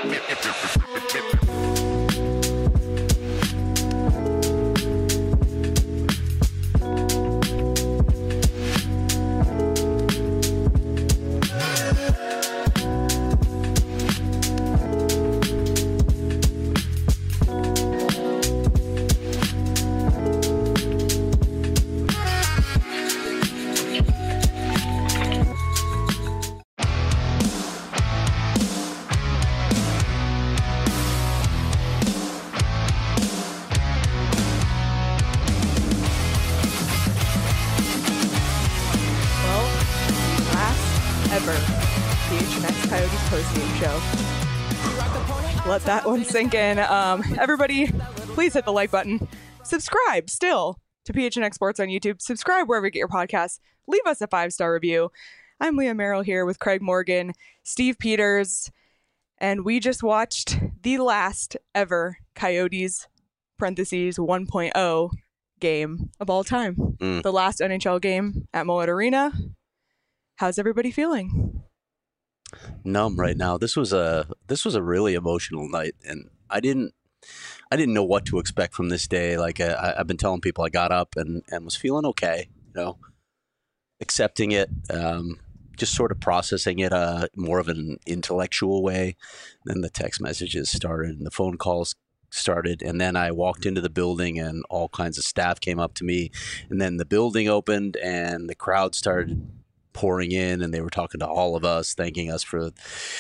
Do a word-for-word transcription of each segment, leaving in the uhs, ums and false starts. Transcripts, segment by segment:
Let that one sink in. Um, everybody, please hit the like button. Subscribe still to P H N X Sports on YouTube. Subscribe wherever you get your podcasts. Leave us a five-star review. I'm Leah Merrill here with Craig Morgan, Steve Peters, and we just watched the last ever Coyotes parentheses one point oh game of all time. Mm. The last N H L game at Mullet Arena. How's everybody feeling? Numb right now. This was a this was a really emotional night, and I didn't I didn't know what to expect from this day. Like I, I've been telling people, I got up and, and was feeling okay, you know, accepting it, um, just sort of processing it uh, more of an intellectual way. Then the text messages started and the phone calls started, and then I walked into the building and all kinds of staff came up to me, and then the building opened and the crowd started pouring in, and they were talking to all of us, thanking us for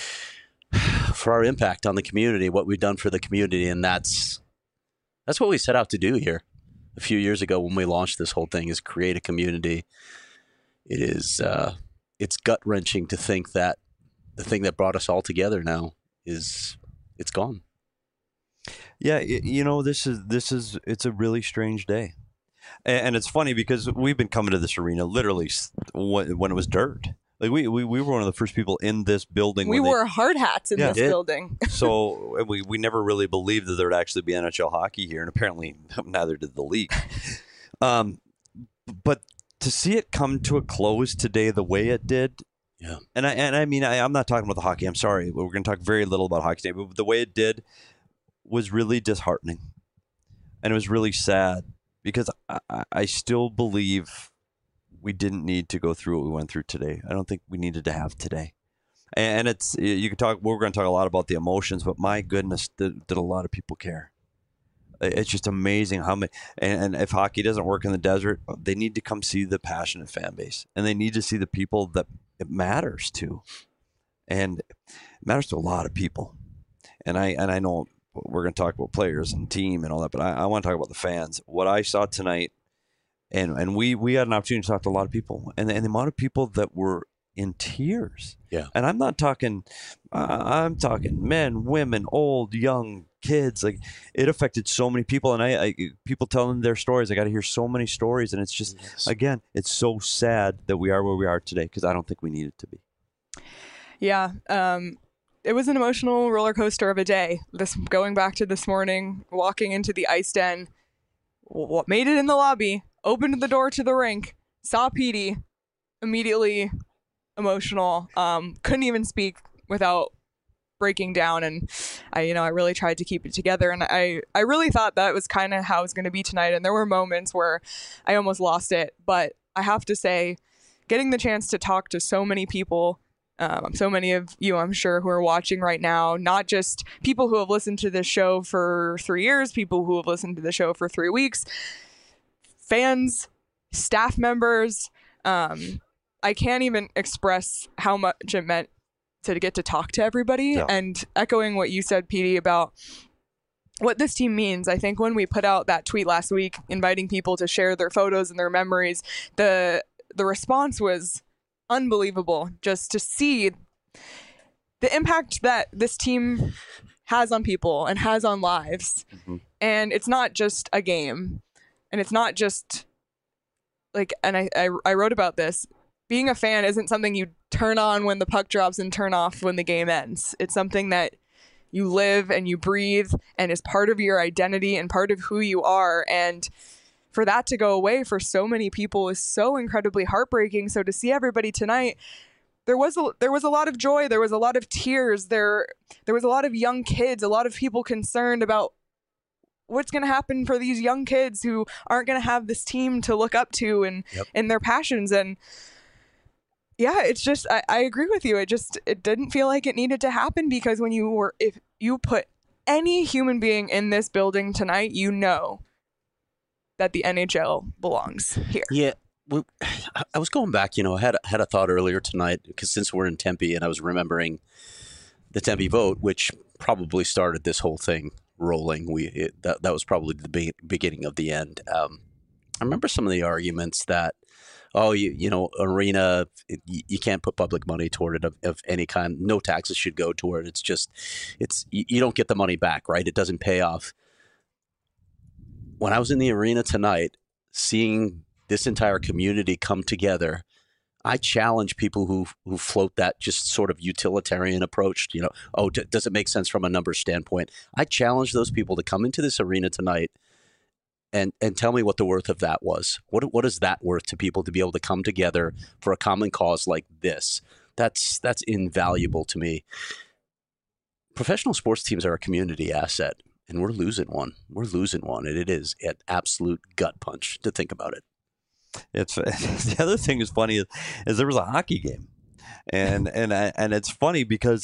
for our impact on the community, what we've done for the community. And that's that's what we set out to do here a few years ago when we launched this whole thing, is create a community. It is uh, it's gut wrenching to think that the thing that brought us all together now is it's gone. Yeah, you know, this is this is it's a really strange day. And it's funny because we've been coming to this arena literally when it was dirt. Like we, we, we were one of the first people in this building. We wore they, hard hats in yeah, this it, building. So we, we never really believed that there would actually be N H L hockey here. And apparently neither did the league. um, but to see it come to a close today the way it did. Yeah. And I, and I mean, I, I'm not talking about the hockey. I'm sorry. We're going to talk very little about hockey today. But the way it did was really disheartening. And it was really sad. Because I, I still believe we didn't need to go through what we went through today. I don't think we needed to have today. And it's, you can talk, we're going to talk a lot about the emotions, but my goodness, did, did a lot of people care. It's just amazing how many, and, and if hockey doesn't work in the desert, they need to come see the passionate fan base. And they need to see the people that it matters to. And it matters to a lot of people. And I, and I know, we're going to talk about players and team and all that, but I, I want to talk about the fans. What I saw tonight, and and we we had an opportunity to talk to a lot of people, and, and the amount of people that were in tears. Yeah. And I'm not talking, uh, I'm talking men, women, old, young, kids. Like, it affected so many people, and I, I people telling their stories. I got to hear so many stories, and it's just, yes. again, it's so sad that we are where we are today, because I don't think we needed to be. Yeah. Um. It was an emotional roller coaster of a day. This going back to this morning, walking into the ice den, what made it in the lobby, opened the door to the rink, saw Petey, immediately emotional. Um, couldn't even speak without breaking down. And I, you know, I really tried to keep it together. And I, I really thought that was kind of how it was going to be tonight. And there were moments where I almost lost it. But I have to say, getting the chance to talk to so many people. Um, so many of you, I'm sure, who are watching right now, not just people who have listened to this show for three years, people who have listened to the show for three weeks, fans, staff members. Um, I can't even express how much it meant to get to talk to everybody. Yeah. And echoing what you said, Petey, about what this team means. I think when we put out that tweet last week, inviting people to share their photos and their memories, the the response was unbelievable, just to see the impact that this team has on people and has on lives. Mm-hmm. And it's not just a game, and it's not just like, and I, I I wrote about this, being a fan isn't something you turn on when the puck drops and turn off when the game ends. It's something that you live and you breathe and is part of your identity and part of who you are. And for that to go away for so many people is so incredibly heartbreaking. So to see everybody tonight there was a, there was a lot of joy. There was a lot of tears. There there was a lot of young kids. A lot of people concerned about what's going to happen for these young kids who aren't going to have this team to look up to and Yep. in their passions. And yeah, it's just I, I agree with you. It just it didn't feel like it needed to happen, because when you were if you put any human being in this building tonight, you know that the N H L belongs here. Yeah, we, I was going back. You know, I had had a thought earlier tonight, because since we're in Tempe, and I was remembering the Tempe vote, which probably started this whole thing rolling. We it, that that was probably the be- beginning of the end. Um, I remember some of the arguments that, oh, you you know, arena, it, you can't put public money toward it of, of any kind. No taxes should go toward it. It's just, it's you, you don't get the money back, right? It doesn't pay off. When I was in the arena tonight, seeing this entire community come together, I challenge people who who float that just sort of utilitarian approach. You know, oh, d- does it make sense from a numbers standpoint? I challenge those people to come into this arena tonight and and tell me what the worth of that was. What what is that worth to people to be able to come together for a common cause like this? That's that's invaluable to me. Professional sports teams are a community asset, and we're losing one. We're losing one, and it is an absolute gut punch to think about it. It's the other thing is funny is, is there was a hockey game, and and I, and it's funny because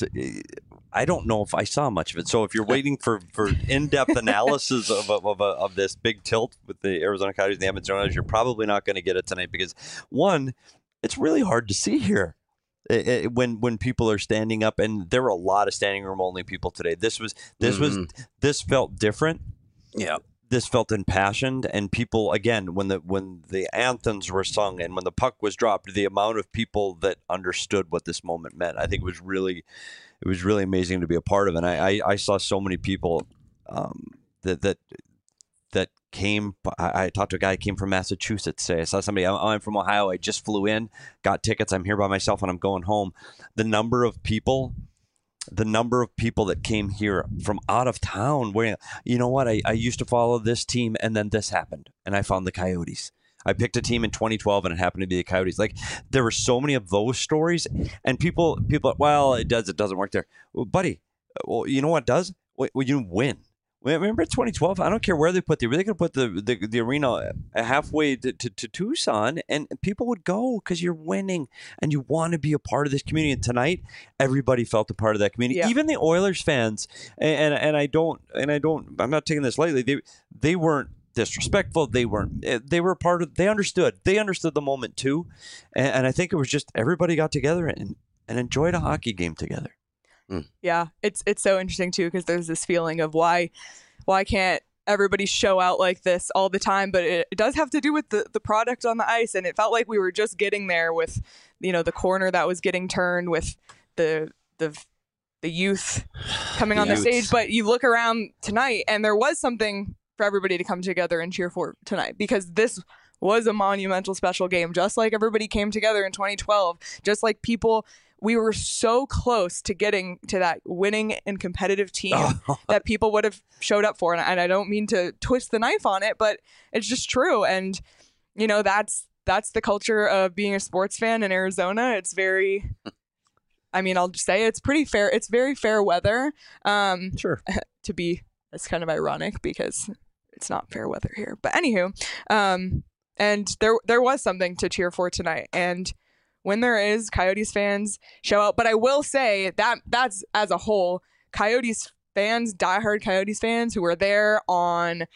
I don't know if I saw much of it. So if you're waiting for, for in-depth analysis of of, of, of this big tilt with the Arizona Coyotes and the Edmonton Oilers, you're probably not going to get it tonight, because one, it's really hard to see here. It, it, when when people are standing up, and there were a lot of standing room only people today. This was this mm-hmm. was this felt different. Yeah. This felt impassioned, and people, again, when the when the anthems were sung and when the puck was dropped, the amount of people that understood what this moment meant, I think it was really, it was really amazing to be a part of. And I, I, I saw so many people um, that that that came. I, I talked to a guy who came from Massachusetts today. I saw somebody. I'm, I'm from Ohio. I just flew in, got tickets. I'm here by myself, and I'm going home. The number of people. The number of people that came here from out of town where, you know what, I, I used to follow this team, and then this happened, and I found the Coyotes. I picked a team in twenty twelve, and it happened to be the Coyotes. Like, there were so many of those stories, and people, people, well, it does, it doesn't work there. Well, buddy, well, you know what does? Well, you win. Remember twenty twelve? I don't care where they put the, they could put the, the, the arena halfway to, to, to Tucson, and people would go because you're winning and you want to be a part of this community. And tonight, everybody felt a part of that community, yeah. Even the Oilers fans. And, and and I don't and I don't I'm not taking this lightly. They they weren't disrespectful. They weren't. They were part of. They understood. They understood the moment too. And, and I think it was just everybody got together and and enjoyed a hockey game together. Mm. Yeah, it's it's so interesting too, because there's this feeling of why why can't everybody show out like this all the time, but it, it does have to do with the, the product on the ice, and it felt like we were just getting there with, you know, the corner that was getting turned, with the the the youth coming on the stage. But you look around tonight, and there was something for everybody to come together and cheer for tonight, because this was a monumental special game, just like everybody came together in twenty twelve, just like people. We were so close to getting to that winning and competitive team that people would have showed up for. And, and I don't mean to twist the knife on it, but it's just true. And, you know, that's that's the culture of being a sports fan in Arizona. It's very, I mean, I'll just say it's pretty fair. It's very fair weather. Um, sure. To be, it's kind of ironic because it's not fair weather here. But anywho, um, and there there was something to cheer for tonight. And when there is, Coyotes fans show out. But I will say that that's as a whole, Coyotes fans, diehard Coyotes fans who were there on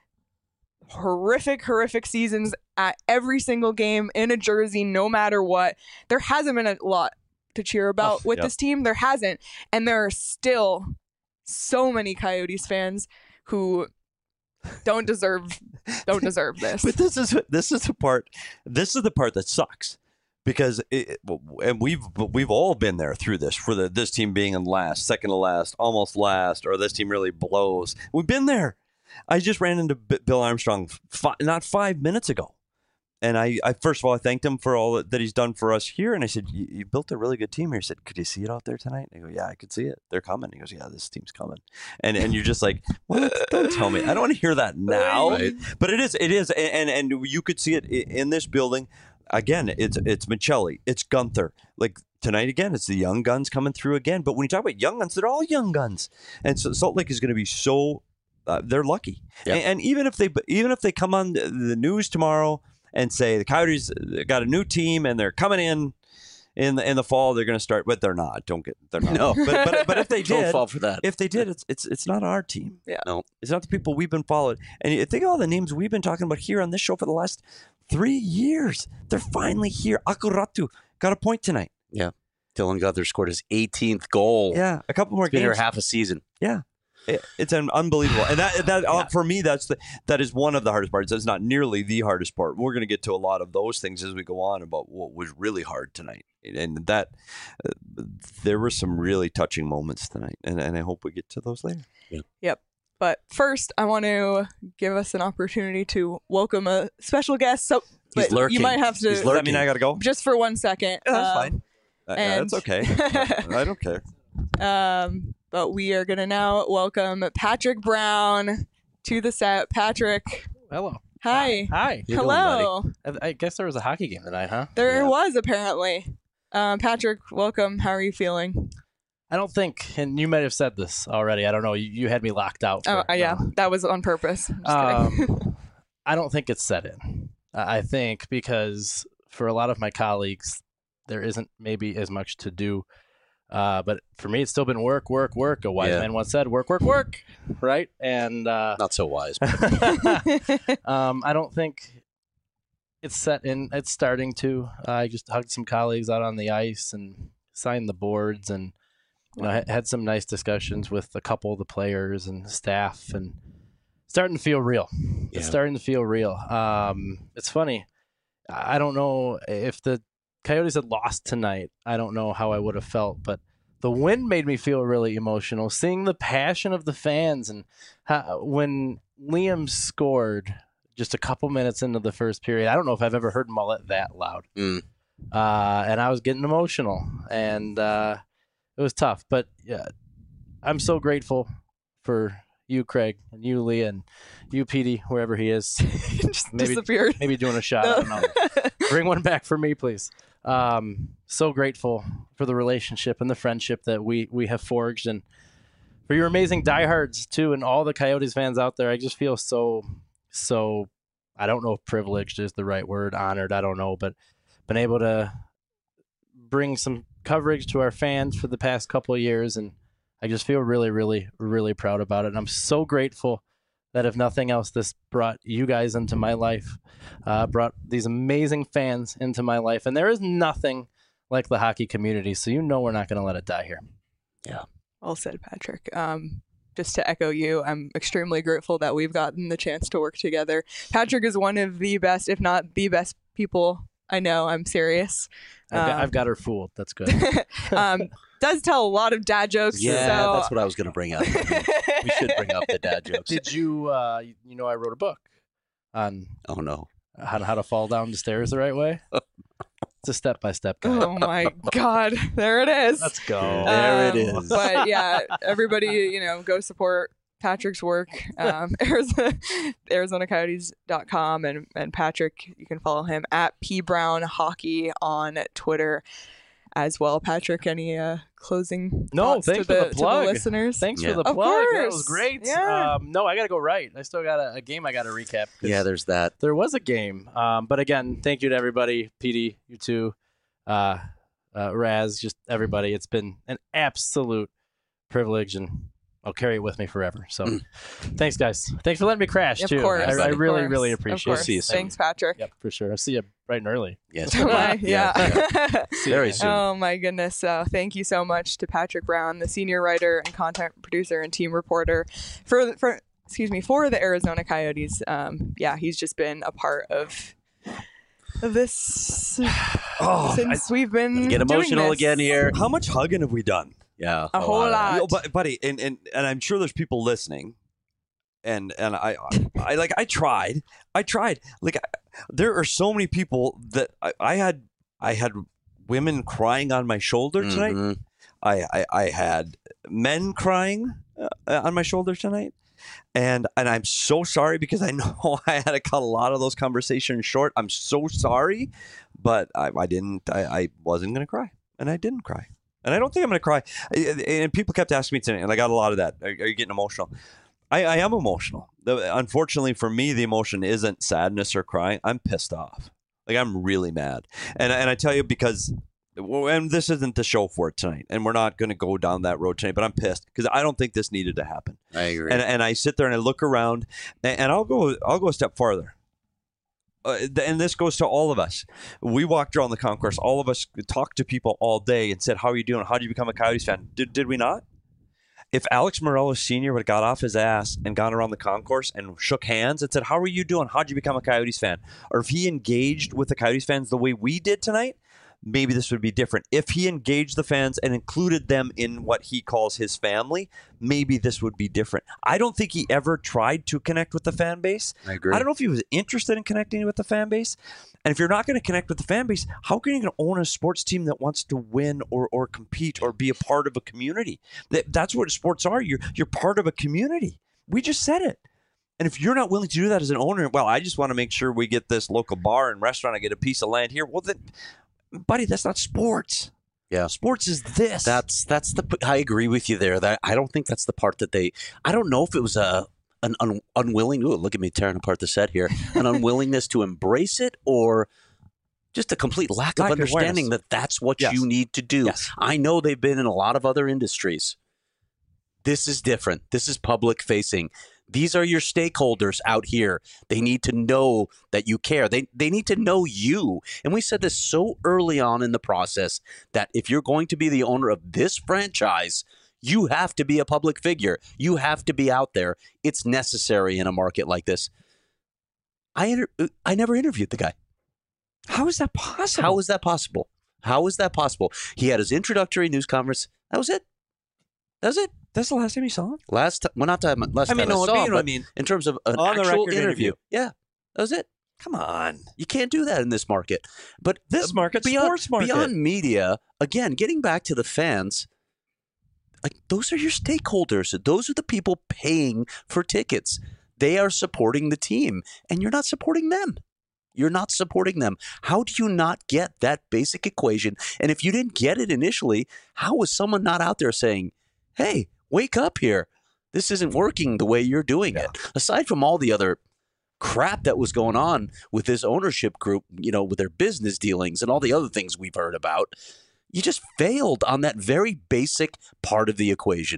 horrific, horrific seasons at every single game in a jersey, no matter what. There hasn't been a lot to cheer about oh, with yep. this team. There hasn't. And there are still so many Coyotes fans who don't deserve don't deserve this. But this is this is the part. This is the part that sucks. Because it, and we've we've all been there through this, for the this team being in last, second to last, almost last, or this team really blows. We've been there. I just ran into Bill Armstrong fi- not five minutes ago, and I, I first of all I thanked him for all that he's done for us here, and I said, "You, you built a really good team here." He said, "Could you see it out there tonight?" And I go, "Yeah, I could see it. They're coming." He goes, "Yeah, this team's coming," and and you're just like, "What? Don't tell me. I don't want to hear that now." Right. But it is, it is, and and you could see it in this building. Again, it's it's Michelli, it's Gunther. Like tonight again, it's the young guns coming through again. But when you talk about young guns, they're all young guns, and so Salt Lake is going to be so uh, they're lucky. Yep. And, and even if they even if they come on the, the news tomorrow and say the Coyotes got a new team and they're coming in in the in the fall, they're going to start, but they're not. Don't get they're not. No. but, but but if they Don't did, fall for that. if they did, it's it's it's not our team. Yeah. No. It's not the people we've been followed. And you think of all the names we've been talking about here on this show for the last three years. They're finally here. Akuratu got a point tonight. Yeah. Dylan Guthrie scored his eighteenth goal. Yeah, a couple more He's been here games. half a season. Yeah. It, it's an unbelievable, and that that uh, for me, that's the that is one of the hardest parts. That's not nearly the hardest part. We're going to get to a lot of those things as we go on about what was really hard tonight, and that uh, there were some really touching moments tonight, and, and I hope we get to those later. Yep. But first, I want to give us an opportunity to welcome a special guest. So He's but lurking. you might have to He's Does that mean I got to go? just for one second. Yeah, that's um, fine. Uh, and- that's okay. I don't care. Um, but we are going to now welcome Patrick Brown to the set. Patrick, Hello. hi. Hi. You doing, Hello. I, I guess there was a hockey game tonight, huh? There Yeah. was apparently. Um, Patrick, welcome. How are you feeling? I don't think, and you might have said this already. I don't know. You, you had me locked out. Oh, for- uh, yeah, no. that was on purpose. I'm just kidding. Um, I don't think it's set in. I I think because for a lot of my colleagues, there isn't maybe as much to do. Uh, but for me, it's still been work, work, work. A wise Yeah. man once said, "Work, work, work." Right? And uh, Not so wise. um, I don't think it's set in. It's starting to. Uh, I just hugged some colleagues out on the ice and signed the boards, and you know, ha- had some nice discussions with a couple of the players and staff, and starting to feel real. It's Yeah. starting to feel real. Um, it's funny. I don't know if the Coyotes had lost tonight. I don't know how I would have felt, but the win made me feel really emotional. Seeing the passion of the fans, and how, when Liam scored just a couple minutes into the first period, I don't know if I've ever heard Mullet that loud. Mm. Uh, and I was getting emotional, and uh, it was tough. But yeah, I'm so grateful for you, Craig, and you, Lee, and you, Petey, wherever he is. just maybe- disappeared. Maybe doing a shot. I don't know. Bring one back for me, please. Um, so grateful for the relationship and the friendship that we we have forged, and for your amazing diehards too, and all the Coyotes fans out there. I just feel so so. I don't know if privileged is the right word, honored. I don't know, but been able to bring some coverage to our fans for the past couple of years, and I just feel really, really, really proud about it. And I'm so grateful that if nothing else, this brought you guys into my life, uh, brought these amazing fans into my life. And there is nothing like the hockey community, so you know we're not going to let it die here. Well said, Patrick. Um, just to echo you, I'm extremely grateful that we've gotten the chance to work together. Patrick is one of the best, if not the best people I know. I'm serious. I've, got, Um, I've got her fooled. That's good. um, does tell a lot of dad jokes. Yeah, so... that's what I was going to bring up. We should bring up the dad jokes. Did you, uh, you, you know, I wrote a book on Oh, no. how to, how to fall down the stairs the right way. It's a step-by-step guide. Oh my God, there it is. Let's go. There it Um, is. But yeah, everybody, you know, go support Patrick's work. Um, Arizona, Arizona Coyotes dot com, and and Patrick, you can follow him at P Brown Hockey on Twitter as well. Patrick, any uh, closing No, thoughts thanks to for the, the to plug. the listeners? Thanks Yeah. for the Of plug. That course. was great. Yeah. Um, no, I got to go right. I still got a, a game I got to recap. 'cause Yeah, there's that. there was a game. Um, but again, thank you to everybody. P D, you too. Uh, uh, Raz, just everybody. It's been an absolute privilege, and I'll carry it with me forever. So Mm. thanks, guys. Thanks for letting me crash, Of too. course. I, I of really, course, really of appreciate course. it. See you soon. Thanks, Patrick. Yep, for sure. I'll see you bright and early. Yes. Bye. Yeah. yeah. Very soon. Oh my goodness. So thank you so much to Patrick Brown, the senior writer and content producer and team reporter for for excuse me for the Arizona Coyotes. Um, yeah, he's just been a part of of this Oh, since we've been Get doing emotional this. again here. how much hugging have we done? Yeah. A whole of lot. that. Yo, but, buddy, and, and and I'm sure there's people listening, and and I I like I tried, I tried. Like I, there are so many people that I, I had I had women crying on my shoulder tonight. Mhm. I, I I had men crying uh, on my shoulder tonight, and and I'm so sorry because I know I had to cut a lot of those conversations short. I'm so sorry, but I, I didn't. I, I wasn't gonna cry. and I didn't cry. And I don't think I'm going to cry. And people kept asking me tonight, and I got a lot of that. Are, are you getting emotional? I, I am emotional. The, unfortunately for me, the emotion isn't sadness or crying. I'm pissed off. Like, I'm really mad. And, and I tell you because, and this isn't the show for it tonight, and we're not going to go down that road tonight, but I'm pissed because I don't think this needed to happen. I agree. And, and I sit there and I look around, and, and I'll go I'll go a step farther. Uh, and this goes to all of us. We walked around the concourse. All of us talked to people all day and said, how are you doing? How do you become a Coyotes fan? Did, did we not? If Alex Morelos Senior would have got off his ass and gone around the concourse and shook hands and said, how are you doing? How did you become a Coyotes fan? Or if he engaged with the Coyotes fans the way we did tonight, maybe this would be different. If he engaged the fans and included them in what he calls his family, maybe this would be different. I don't think he ever tried to connect with the fan base. I agree. I don't know if he was interested in connecting with the fan base. And if you're not going to connect with the fan base, how can you going to own a sports team that wants to win or or compete or be a part of a community? That, that's what sports are. You're you're part of a community. We just said it. And if you're not willing to do that as an owner, well, I just want to make sure we get this local bar and restaurant. I get a piece of land here. Well, then, buddy, that's not sports. Yeah. Sports is this. That's that's the. I agree with you there. That I don't think that's the part that they. I don't know if it was a an un, unwilling. Ooh, look at me tearing apart the set here. An unwillingness to embrace it, or just a complete lack, Lack of of understanding awareness. that that's what Yes. you need to do. Yes. I know they've been in a lot of other industries. This is different. This is public facing. These are your stakeholders out here. They need to know that you care. They they need to know you. And we said this so early on in the process that if you're going to be the owner of this franchise, you have to be a public figure. You have to be out there. It's necessary in a market like this. I inter- I never interviewed the guy. How is that possible? How is that possible? How is that possible? He had his introductory news conference. That was it. That was it. That's the last time you saw him? Last time, well, not time. Last I mean, time no, I saw I mean, him, I but mean, in terms of an on the actual record interview, interview. yeah, that was it. Come on. You can't do that in this market. But This uh, market's beyond, sports market. beyond media, again, getting back to the fans, like those are your stakeholders. Those are the people paying for tickets. They are supporting the team, and you're not supporting them. You're not supporting them. How do you not get that basic equation? And if you didn't get it initially, how was someone not out there saying, hey, wake up here. This isn't working the way you're doing Yeah. it. Aside from all the other crap that was going on with this ownership group, you know, with their business dealings and all the other things we've heard about, you just failed on that very basic part of the equation.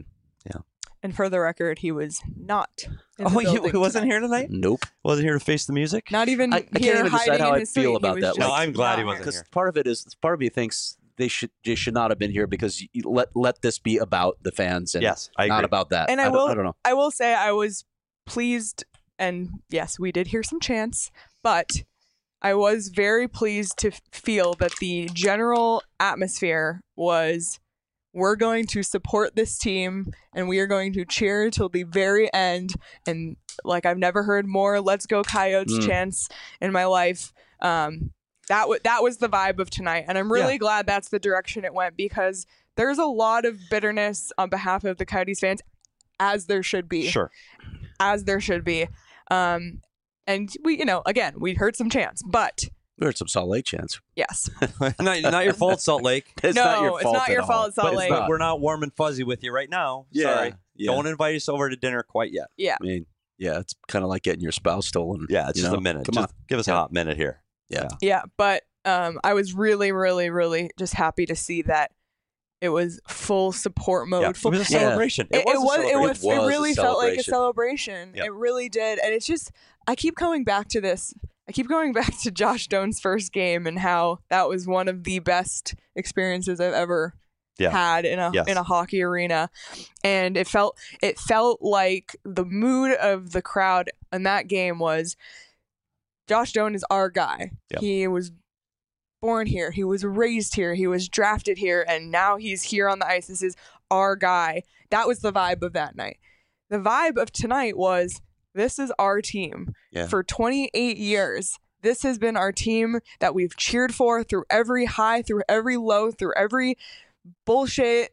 And for the record, he was not. In Oh, the he, building he wasn't tonight. here tonight? Nope. Wasn't here to face the music? Not even I- I can't here even decide hiding how in I his feel suite. about he that. was No, just I'm glad he not wasn't here. Because here. part of it is part of me thinks they should they should not have been here because you let let this be about the fans and Yes, I not agree. about that. And I don't, will- I don't know. I will say I was pleased, and yes, we did hear some chants, but I was very pleased to f- feel that the general atmosphere was, we're going to support this team and we are going to cheer till the very end. And like, I've never heard more "Let's Go Coyotes" Mm. chants in my life. Um, that w- that was the vibe of tonight, and I'm really Yeah. glad that's the direction it went, because there's a lot of bitterness on behalf of the Coyotes fans, as there should be. Sure. As there should be. Um, and we, you know, again, we heard some chants, but We heard some Salt Lake chants. yes, not, not your fault, Salt Lake. It's no, not your it's fault. not at your all. fault, Salt But, Lake. but we're not warm and fuzzy with you right now. Yeah, Sorry. yeah. Don't invite us over to dinner quite yet. Yeah, I mean, yeah, it's kind of like getting your spouse stolen. Yeah, it's you just know? a minute. Come Just on. give us Yeah. a hot minute here. Yeah. yeah, but um, I was really, really, really just happy to see that it was full support mode. Yeah. It Full, was a Yeah. celebration. It, it was. a It celebration. was. It, It was a really felt like a celebration. celebration. Yep. It really did, and it's just. I keep coming back to this. I keep going back to Josh Doan's first game and how that was one of the best experiences I've ever Yeah. had in a Yes. in a hockey arena, and it felt it felt like the mood of the crowd in that game was, Josh Doan is our guy. Yep. He was born here. He was raised here. He was drafted here, and now he's here on the ice. This is our guy. That was the vibe of that night. The vibe of tonight was, this is our team. Yeah. For twenty-eight years, this has been our team that we've cheered for through every high, through every low, through every bullshit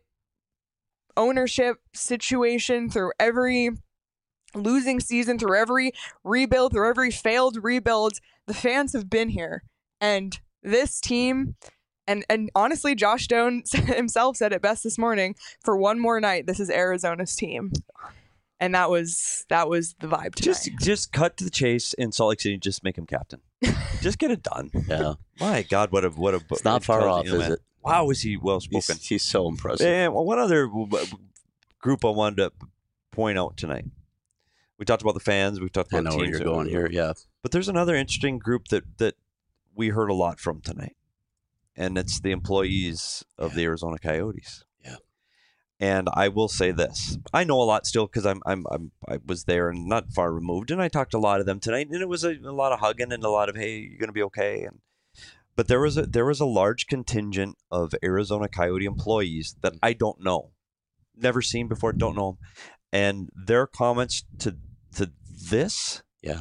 ownership situation, through every losing season, through every rebuild, through every failed rebuild. The fans have been here. And this team And and honestly, Josh Doan himself said it best this morning. For one more night, this is Arizona's team, and that was that was the vibe tonight. Just just cut to the chase in Salt Lake City. Just make him captain. Just get it done. Yeah. My God, what a what a. It's not far off, is it? Wow, is he well spoken? He's, he's so impressive. And one other group I wanted to point out tonight. We talked about the fans. We've talked I about know where teams. you're going here. Yeah. But there's another interesting group that that we heard a lot from tonight. And it's the employees of Yeah. the Arizona Coyotes. Yeah. And I will say this: I know a lot still because I'm, I'm I'm I was there and not far removed, and I talked to a lot of them tonight, and it was a, a lot of hugging and a lot of hey, you're gonna be okay. And but there was a there was a large contingent of Arizona Coyote employees that I don't know, never seen before, don't know them, and their comments to to this Yeah.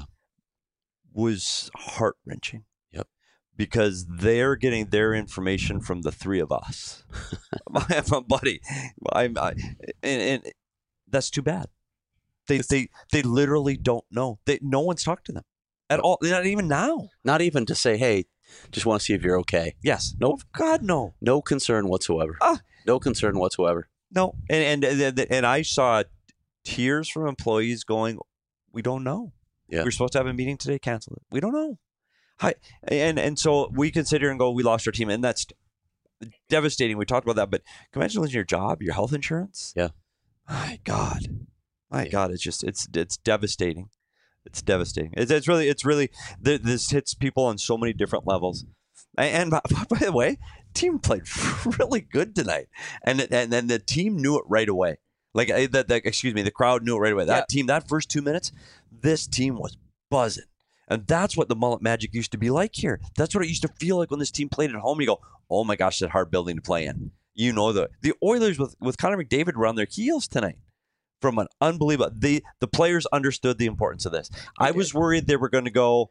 was heart wrenching. Yep. Because they're getting their information from the three of us. my, my buddy, I'm, I, and, and that's too bad. They they they literally don't know. They no one's talked to them at all. Not even now. Not even to say, hey, just want to see if you're okay. Yes. Nope. Oh, God, no. No concern whatsoever. Ah. No concern whatsoever. No. And, and and and I saw tears from employees going, we don't know. Yeah. We were supposed to have a meeting today, cancel it. We don't know. Hi, and and so we can sit here and go, we lost our team, and that's devastating. We talked about that, but can you imagine losing your job, your health insurance? Yeah. My God, my Yeah. God, it's just it's it's devastating. It's devastating. It's, it's really it's really th- this hits people on so many different levels. And, and by, by the way, team played really good tonight, and and then the team knew it right away. Like uh, the, the excuse me, the crowd knew it right away. That Yeah. team, that first two minutes, this team was buzzing. And that's what the Mullet Magic used to be like here. That's what it used to feel like when this team played at home. You go, oh my gosh, that hard building to play in. You know, the the Oilers with, with Connor McDavid were on their heels tonight from an unbelievable. The the players understood the importance of this. I did. was worried they were going to go,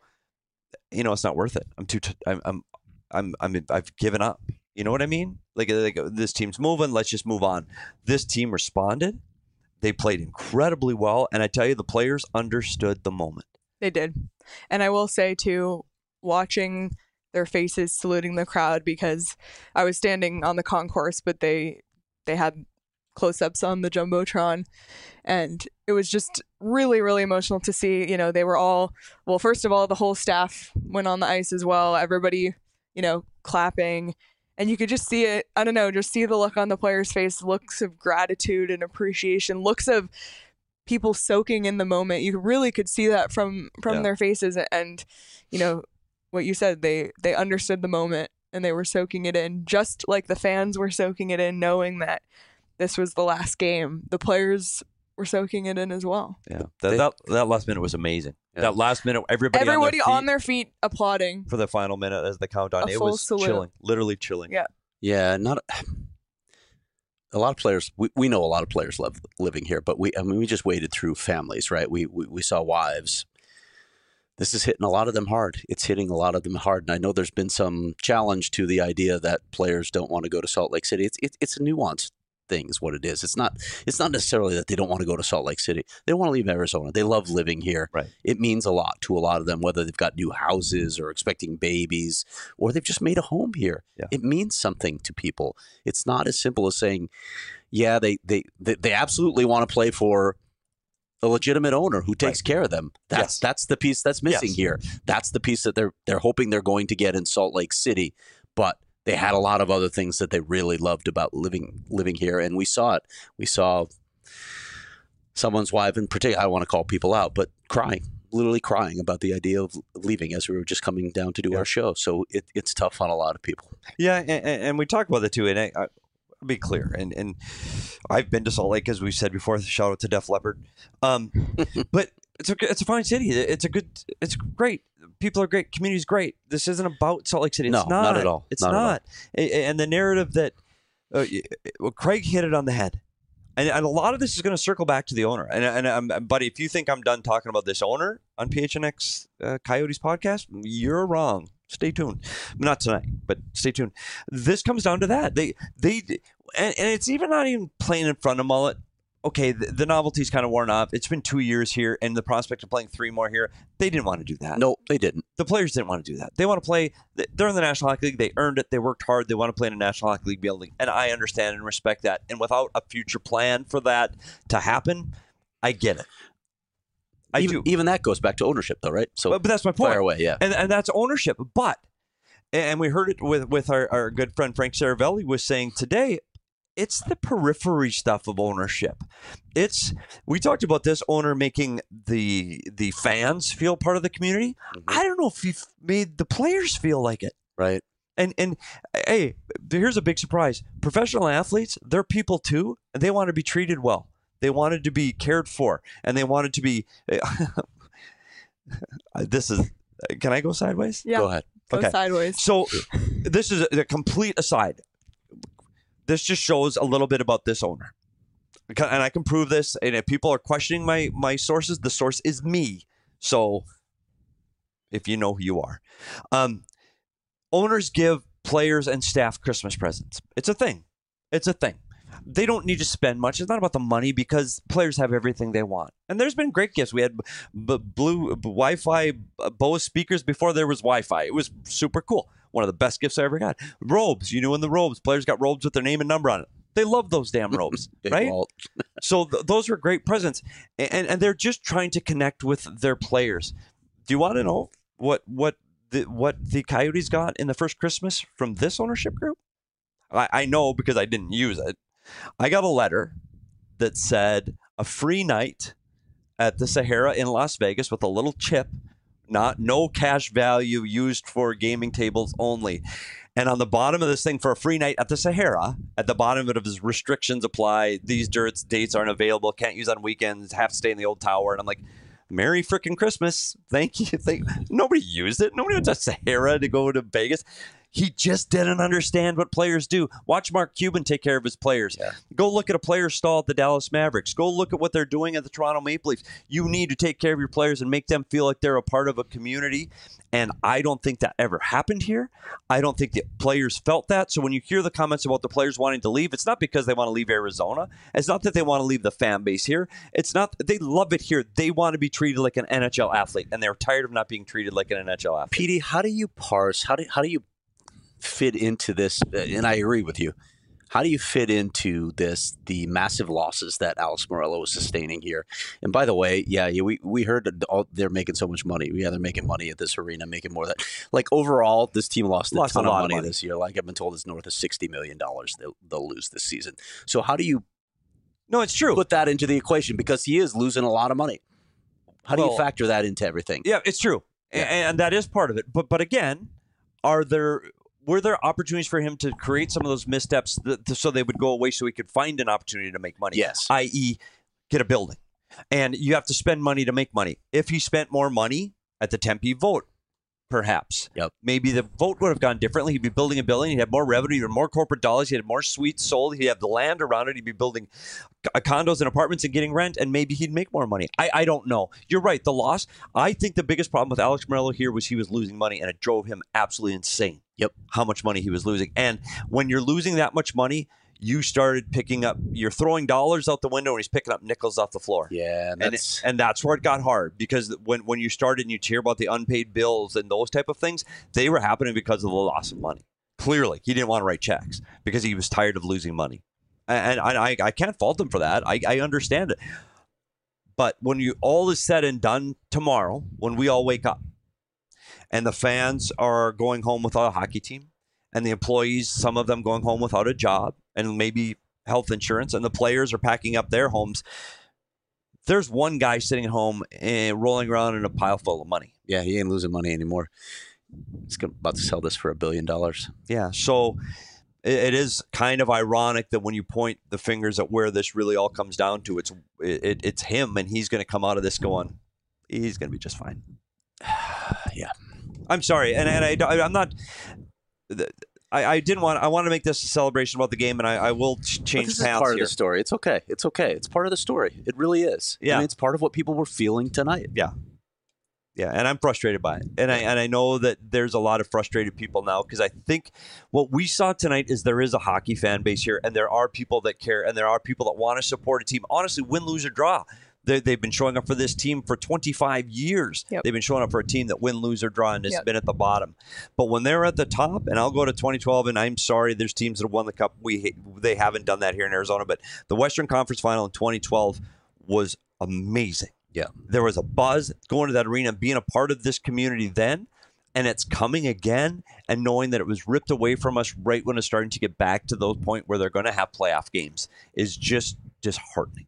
you know, it's not worth it. I'm too, t- I'm, I'm, I'm, I'm, I've given up. You know what I mean? Like, like this team's moving. Let's just move on. This team responded. They played incredibly well. And I tell you, the players understood the moment. They did. And I will say, too, watching their faces saluting the crowd, because I was standing on the concourse, but they they had close-ups on the Jumbotron, and it was just really, really emotional to see. You know, they were all, well, first of all, the whole staff went on the ice as well. Everybody, you know, clapping. And you could just see it, I don't know, just see the look on the players' face, looks of gratitude and appreciation, looks of people soaking in the moment. You really could see that from from Yeah. their faces. And you know what you said, they they understood the moment and they were soaking it in, just like the fans were soaking it in, knowing that this was the last game. The players were soaking it in as well. Yeah, that They- that, that last minute was amazing. Yeah. That last minute, everybody, Everybody on their, on their feet applauding. for the final minute as the countdown. A It full was salute. chilling, literally chilling. Yeah. Yeah, not a lot of players. We, we know a lot of players love living here, but we I mean we just waded through families, right? We, we we saw wives. This is hitting a lot of them hard. It's hitting a lot of them hard, and I know there's been some challenge to the idea that players don't want to go to Salt Lake City. It's it, it's a nuanced thing, is what it is. It's not it's not necessarily that they don't want to go to Salt Lake City. They don't want to leave Arizona. They love living here. Right. It means a lot to a lot of them, whether they've got new houses or expecting babies, or they've just made a home here. Yeah. It means something to people. It's not as simple as saying, yeah, they they they, they absolutely want to play for a legitimate owner who takes Right. care of them. That's Yes. that's the piece that's missing Yes. here. That's the piece that they're they're hoping they're going to get in Salt Lake City, but they had a lot of other things that they really loved about living living here, and we saw it. We saw someone's wife in particular. I don't want to call people out, but crying, literally crying about the idea of leaving as we were just coming down to do Yeah. our show. So it, it's tough on a lot of people. Yeah, and, and and we talk about that too. And I, I, I'll be clear, and and I've been to Salt Lake, as we've said before. Shout out to Def Leppard. Um, but it's a it's a fine city. It's a good. It's great. People are great. Community's great. This isn't about Salt Lake City. It's No, not. not at all. It's Not at all. not. A- a- And the narrative that uh, well, Craig hit it on the head. And, and a lot of this is going to circle back to the owner. And, and um, buddy, if you think I'm done talking about this owner on P H N X uh, Coyotes podcast, you're wrong. Stay tuned. Not tonight, but stay tuned. This comes down to that. They they and, and it's even not even playing in front of Mullet. okay, the, the novelty's kind of worn off. It's been two years here, and the prospect of playing three more here, they didn't want to do that. No, they didn't. The players didn't want to do that. They want to play. They're in the National Hockey League. They earned it. They worked hard. They want to play in a National Hockey League building, and I understand and respect that. And without a future plan for that to happen, I get it. I even, do. Even that goes back to ownership, though, right? So, but, but that's my point. Fire away, yeah. And and that's ownership. But and we heard it with with our, our good friend Frank Saravelli was saying today. It's the periphery stuff of ownership. It's we talked about this owner making the the fans feel part of the community. Mm-hmm. I don't know if he made the players feel like it. Right. And and hey, here's a big surprise. Professional athletes, they're people too, and they want to be treated well. They wanted to be cared for, and they wanted to be. This is. Can I go sideways? Yeah. Go ahead. Go Okay. sideways. So this is a, a complete aside. This just shows a little bit about this owner, and I can prove this. And if people are questioning my my sources, the source is me. So if you know who you are, um, owners give players and staff Christmas presents. It's a thing. It's a thing. They don't need to spend much. It's not about the money because players have everything they want. And there's been great gifts. We had b- b- blue b- Wi-Fi uh, Bose speakers before there was Wi-Fi. It was super cool. One of the best gifts I ever got. Robes. You know, in the robes, players got robes with their name and number on it. They love those damn robes, Big right? Walt. So th- those are great presents, and and they're just trying to connect with their players. Do you want to know what what the what the Coyotes got in the first Christmas from this ownership group? I, I know because I didn't use it. I got a letter that said a free night at the Sahara in Las Vegas with a little chip, not no cash value, used for gaming tables only. And on the bottom of this thing, for a free night at the Sahara, at the bottom of it is restrictions apply. These dirts dates aren't available. Can't use on weekends. Have to stay in the old tower. And I'm like, Merry freaking Christmas. Thank you. Thank Nobody used it. Nobody went to Sahara to go to Vegas. He just didn't understand what players do. Watch Mark Cuban take care of his players. Yeah. Go look at a player stall at the Dallas Mavericks. Go look at what they're doing at the Toronto Maple Leafs. You need to take care of your players and make them feel like they're a part of a community. And I don't think that ever happened here. I don't think the players felt that. So when you hear the comments about the players wanting to leave, it's not because they want to leave Arizona. It's not that they want to leave the fan base here. It's not, they love it here. They want to be treated like an N H L athlete, and they're tired of not being treated like an N H L athlete. Petey, how do you parse? How do how do you fit into this? And I agree with you. How do you fit into this, the massive losses that Alex Morello is sustaining here? And by the way, yeah, yeah we, we heard that all, they're making so much money. Yeah, they're making money at this arena, making more than that. Like overall, this team lost a Lost ton a of lot money, of money this year. Like I've been told it's north of sixty million dollars they'll, they'll lose this season. So how do you No, it's true. put that into the equation? Because he is losing a lot of money. How do Well, you factor that into everything? Yeah, it's true. Yeah. And, and that is part of it. But but again, are there were there opportunities for him to create some of those missteps that, so they would go away so he could find an opportunity to make money? Yes. that is get a building. And you have to spend money to make money. If he spent more money at the Tempe vote, perhaps. Yep. Maybe the vote would have gone differently. He'd be building a building. He'd have more revenue. He'd have more corporate dollars. He'd have more suites sold. He'd have the land around it. He'd be building c- condos and apartments and getting rent, and maybe he'd make more money. I, I don't know. You're right. The loss, I think the biggest problem with Alex Morello here was he was losing money, and it drove him absolutely insane. Yep. How much money he was losing. And when you're losing that much money, you started picking up, you're throwing dollars out the window, and he's picking up nickels off the floor. Yeah, And, that's it, and that's where it got hard, because when, when you started and you hear about the unpaid bills and those type of things, they were happening because of the loss of money. Clearly, he didn't want to write checks because he was tired of losing money. And, and I, I can't fault him for that. I, I understand it. But when you all is said and done tomorrow, when we all wake up and the fans are going home without a hockey team, and the employees, some of them going home without a job and maybe health insurance, and the players are packing up their homes, there's one guy sitting at home and rolling around in a pile full of money. yeah, he ain't losing money anymore. He's gonna, about to sell this for a billion dollars. Yeah, so it, it is kind of ironic that when you point the fingers at where this really all comes down to, it's it, it's him, and he's going to come out of this going, he's going to be just fine. Yeah. I'm sorry, and and I, I'm not. I, I didn't want. I want to make this a celebration about the game, and I, I will ch- But change this is paths part here. of the story. It's okay. It's okay. It's part of the story. It really is. Yeah. I mean, it's part of what people were feeling tonight. Yeah. Yeah, and I'm frustrated by it. And I and I know that there's a lot of frustrated people now because I think what we saw tonight is there is a hockey fan base here, and there are people that care, and there are people that want to support a team. Honestly, win, lose, or draw. They, they've been showing up for this team for twenty-five years. Yep. They've been showing up for a team that win, lose, or draw, and has Yep. been at the bottom. But when they're at the top, and I'll go to twenty twelve, and I'm sorry, there's teams that have won the Cup. We They haven't done that here in Arizona, but the Western Conference Final in twenty twelve was amazing. Yeah. There was a buzz going to that arena and being a part of this community then, and it's coming again, and knowing that it was ripped away from us right when it's starting to get back to those point where they're going to have playoff games is just disheartening.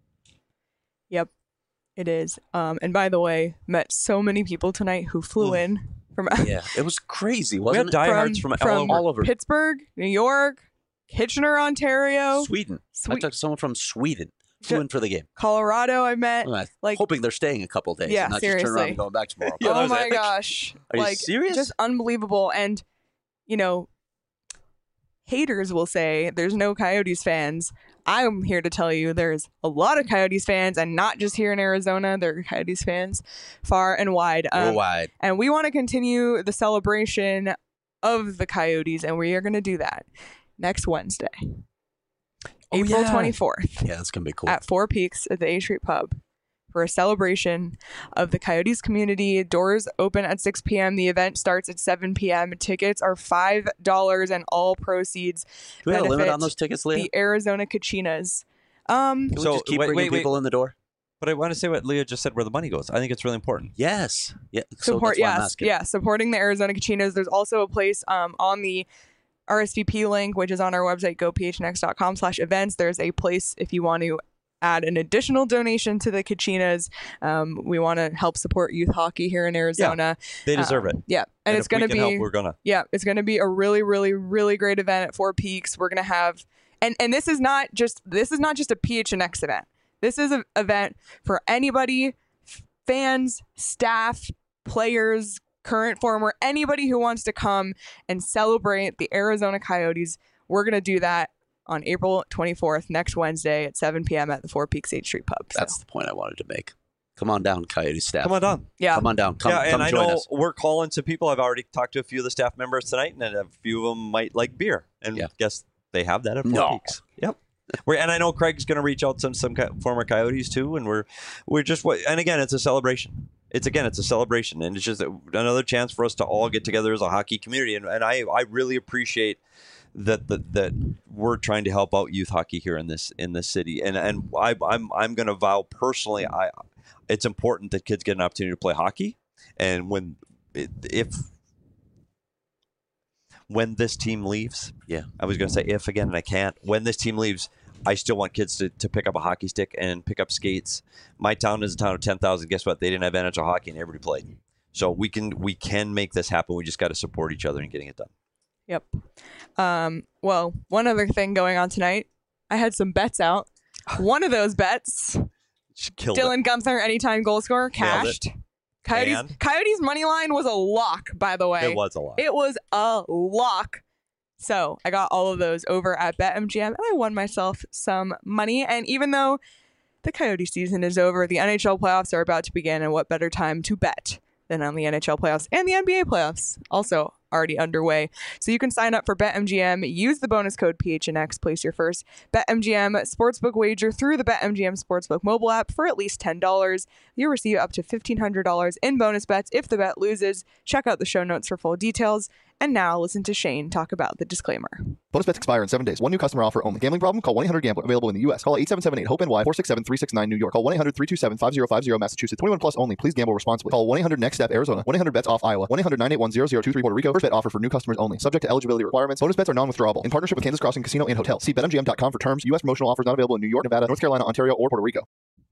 Yep, it is. Um, and by the way, met so many people tonight who flew Mm. in from Yeah, it was crazy, We had wasn't it? diehards from, from, all over. all over. Pittsburgh, New York, Kitchener, Ontario, Sweden. I Swe- talked to someone from Sweden. Flew Ju- in for the game. Colorado. I met. Well, I'm like- hoping they're staying a couple days Yeah, and not just turn around seriously. and going back tomorrow. Yeah, that Oh was my epic. gosh! Are you like serious? just unbelievable. And you know, haters will say there's no Coyotes fans. I'm here to tell you there's a lot of Coyotes fans, and not just here in Arizona. There are Coyotes fans far and wide. Um, Worldwide. And we want to continue the celebration of the Coyotes, and we are going to do that next Wednesday, Oh, April yeah. twenty-fourth, Yeah, that's gonna be cool. at Four Peaks at the A Street Pub for a celebration of the Coyotes community. Doors open at six p.m. The event starts at seven p.m. Tickets are five dollars, and all proceeds Do we have a limit benefit on those tickets, Leah? the Arizona Kachinas. Um, Can we So, just keep wait, bringing wait, wait. people in the door? But I want to say what Leah just said, where the money goes. I think it's really important. Yes. Yeah. So support that's why I'm yes asking. yeah supporting the Arizona Kachinas. There's also a place um on the R S V P link, which is on our website, go p h n x dot com slash events. There's a place if you want to add an additional donation to the Kachinas. Um, we want to help support youth hockey here in Arizona. They deserve Um, it. Yeah, and, And it's if we going to can be help, we're gonna. yeah, it's going to be a really, really, really great event at Four Peaks. We're going to have, and and this is not just this is not just a P H N X event. This is an event for anybody, f- fans, staff, players, current, former, anybody who wants to come and celebrate the Arizona Coyotes. We're going to do that on April twenty-fourth, next Wednesday at seven p.m. at the Four Peaks eighth Street Pub. So, That's the point I wanted to make. Come on down, Coyote staff. Come on down. yeah, Come on down. Come, yeah, come and I join know us. we're calling some people. I've already talked to a few of the staff members tonight, and a few of them might like beer. And Yeah. guess they have that at Four No. Peaks. Yep. We're, and I know Craig's going to reach out to some some co- former Coyotes too, and we're we're just what. And again, it's a celebration. It's again, it's a celebration, and it's just another chance for us to all get together as a hockey community. And, and I I really appreciate that that that we're trying to help out youth hockey here in this in this city. And and I I'm I'm going to vow personally, I it's important that kids get an opportunity to play hockey. And when if when this team leaves, Yeah. I was going to say if again, and I can't. When this team leaves, I still want kids to, to pick up a hockey stick and pick up skates. My town is a town of ten thousand. Guess what? They didn't have N H L hockey, and everybody played. So we can we can make this happen. We just got to support each other in getting it done. Yep. Um, well, one other thing going on tonight, I had some bets out. One of those bets, Just killed it. Dylan Gunther, anytime goal scorer, Nailed it. cashed. Coyotes, And? Coyotes money line was a lock, by the way. It was a lot. It was a lock. So I got all of those over at BetMGM, and I won myself some money. And even though the Coyote season is over, the N H L playoffs are about to begin, and what better time to bet than on the N H L playoffs and the N B A playoffs, also already underway. So you can sign up for BetMGM, use the bonus code P H N X, place your first BetMGM sportsbook wager through the BetMGM Sportsbook mobile app for at least ten dollars. You'll receive up to fifteen hundred dollars in bonus bets if the bet loses. Check out the show notes for full details. And now listen to Shane talk about the disclaimer. Bonus bets expire in seven days. One new customer offer only. Gambling problem? Call one eight hundred gambler. Available in the U S. Call eight seven seven eight hope N Y four six seven three six nine New York. Call one eight hundred three two seven five zero five zero Massachusetts. twenty-one plus only. Please gamble responsibly. Call one eight hundred next step Arizona. one eight hundred bets off Iowa. one eight hundred nine eight one zero zero two three Puerto Rico. First bet offer for new customers only. Subject to eligibility requirements. Bonus bets are non-withdrawable. In partnership with Kansas Crossing Casino and Hotel. See bet M G M dot com for terms. U S promotional offers not available in New York, Nevada, North Carolina, Ontario, or Puerto Rico.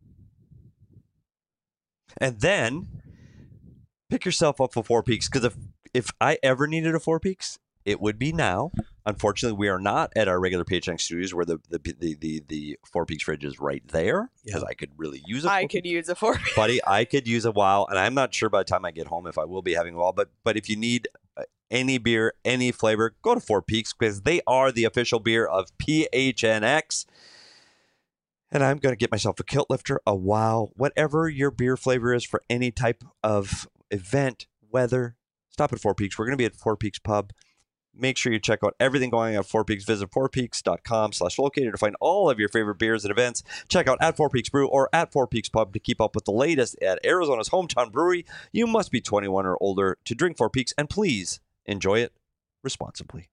And then pick yourself up for Four Peaks, because if if I ever needed a Four Peaks, it would be now. Unfortunately, we are not at our regular P H N X studios where the the the the, the Four Peaks fridge is right there, because Yeah. I could really use it. I could use a four. buddy. I could use a while, and I'm not sure by the time I get home if I will be having a while. But but if you need uh, any beer, any flavor, go to Four Peaks, because they are the official beer of P H N X. And I'm going to get myself a kilt lifter, a wow, whatever your beer flavor is for any type of event, weather. Stop at Four Peaks. We're going to be at Four Peaks Pub. Make sure you check out everything going on at Four Peaks. Visit fourpeaks.com slash locator to find all of your favorite beers and events. Check out at Four Peaks Brew or at Four Peaks Pub to keep up with the latest at Arizona's hometown brewery. You must be twenty-one or older to drink Four Peaks, and please enjoy it responsibly.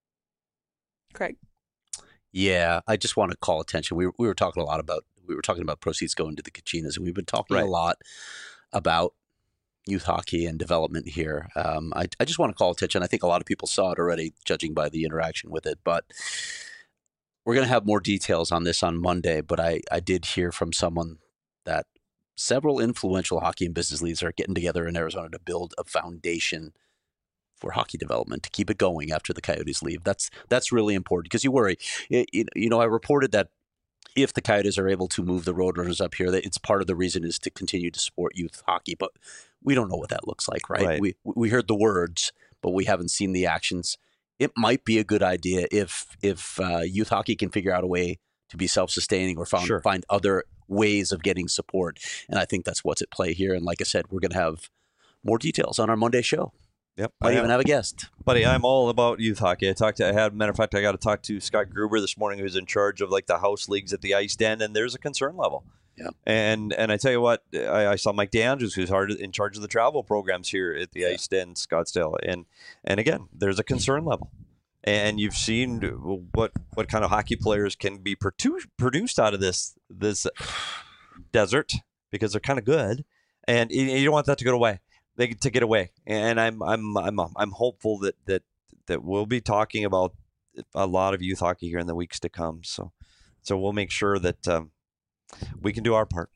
Craig. Yeah, I just want to call attention. We were, we were talking a lot about we were talking about proceeds going to the Kachinas, and we've been talking Right. a lot about youth hockey and development here. Um, I, I just want to call attention. I think a lot of people saw it already, judging by the interaction with it. But we're going to have more details on this on Monday. But I, I did hear from someone that several influential hockey and business leaders are getting together in Arizona to build a foundation for hockey development to keep it going after the Coyotes leave. That's that's really important because you worry. It, it, you know, I reported that if the Coyotes are able to move the Roadrunners up here, that it's part of the reason is to continue to support youth hockey. But we don't know what that looks like, right? Right. We we heard the words, but we haven't seen the actions. It might be a good idea if if uh, youth hockey can figure out a way to be self-sustaining or found, Sure. find other ways of getting support. And I think that's what's at play here. And like I said, we're going to have more details on our Monday show. Yep. Might I even am. have a guest. Buddy, I'm all about youth hockey. I talked to, I had, matter of fact, I got to talk to Scott Gruber this morning, who's in charge of like the house leagues at the Ice Den, and there's a concern level. Yeah. And and I tell you what, I, I saw Mike DeAndrews, who's hard in charge of the travel programs here at the Yeah. Ice Den, Scottsdale, and and again, there's a concern level. And you've seen what what kind of hockey players can be produ- produced out of this this desert because they're kind of good, and you you don't want that to go away. They to get away, and I'm I'm I'm I'm hopeful that that that we'll be talking about a lot of youth hockey here in the weeks to come. So so we'll make sure that um, we can do our part.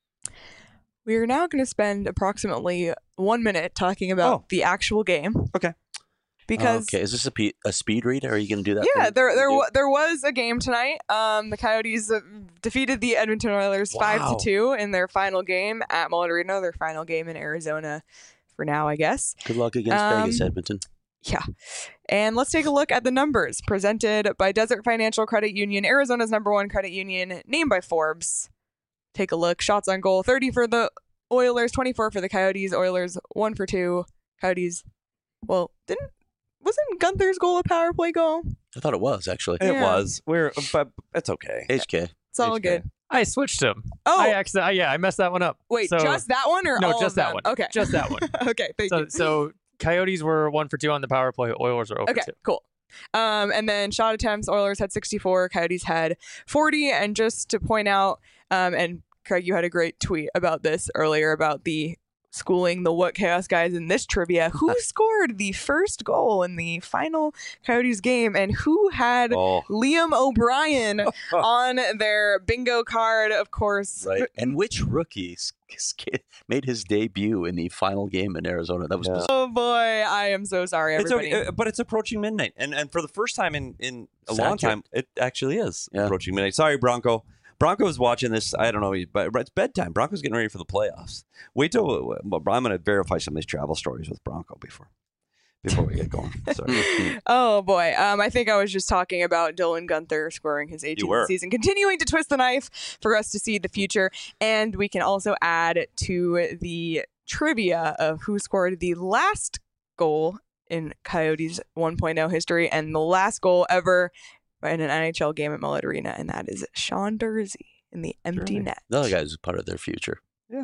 We are now going to spend approximately one minute talking about Oh. the actual game. Okay. Because okay, is this a, pe- a speed read? Are you going to do that? yeah, thing there that there we do? wa- there was a game tonight. Um, the Coyotes uh, defeated the Edmonton Oilers five Wow. to two in their final game at Mullet Arena. Their final game in Arizona for now, I guess. Good luck against Um, Vegas, Edmonton. Yeah. And let's take a look at the numbers presented by Desert Financial Credit Union, Arizona's number one credit union, named by Forbes. Take a look. Shots on goal, thirty for the Oilers, twenty-four for the Coyotes. Oilers, one for two. Coyotes, well, didn't, wasn't Gunther's goal a power play goal? I thought it was, actually. It Yeah. was. We're but it's okay. H K. It's all H K. good. I switched them. Oh, I accident- yeah, I messed that one up. wait, So- just that one or no, all just of that them? one. Okay. Just that one. okay, thank So, you. so Coyotes were one for two on the power play. Oilers are zero Okay, for two. cool. Um, and then shot attempts, Oilers had sixty-four, Coyotes had forty. And just to point out, um, and Craig, you had a great tweet about this earlier about the schooling the What Chaos guys in this trivia. Who scored the first goal in the final Coyotes game, and who had Oh, Liam O'Brien on their bingo card? Of course, Right. And which rookie s- s- made his debut in the final game in Arizona? That was Yeah. bizarre. Oh boy, I am so sorry, it's everybody. okay, uh, but it's approaching midnight, and and for the first time in in a It's long accurate. time, it actually is Yeah. approaching midnight. Sorry, Bronco. Bronco's watching this. I don't know, but it's bedtime. Bronco's getting ready for the playoffs. Wait till I'm going to verify some of these travel stories with Bronco before before we get going. Sorry. Oh boy. Um, I think I was just talking about Dylan Gunther scoring his eighteenth were. season, continuing to twist the knife for us to see the future. And we can also add to the trivia of who scored the last goal in Coyotes one point oh history and the last goal ever in an N H L game at Mullet Arena, and that is Sean Dursey in the empty Really? net. The other guys are part of their future.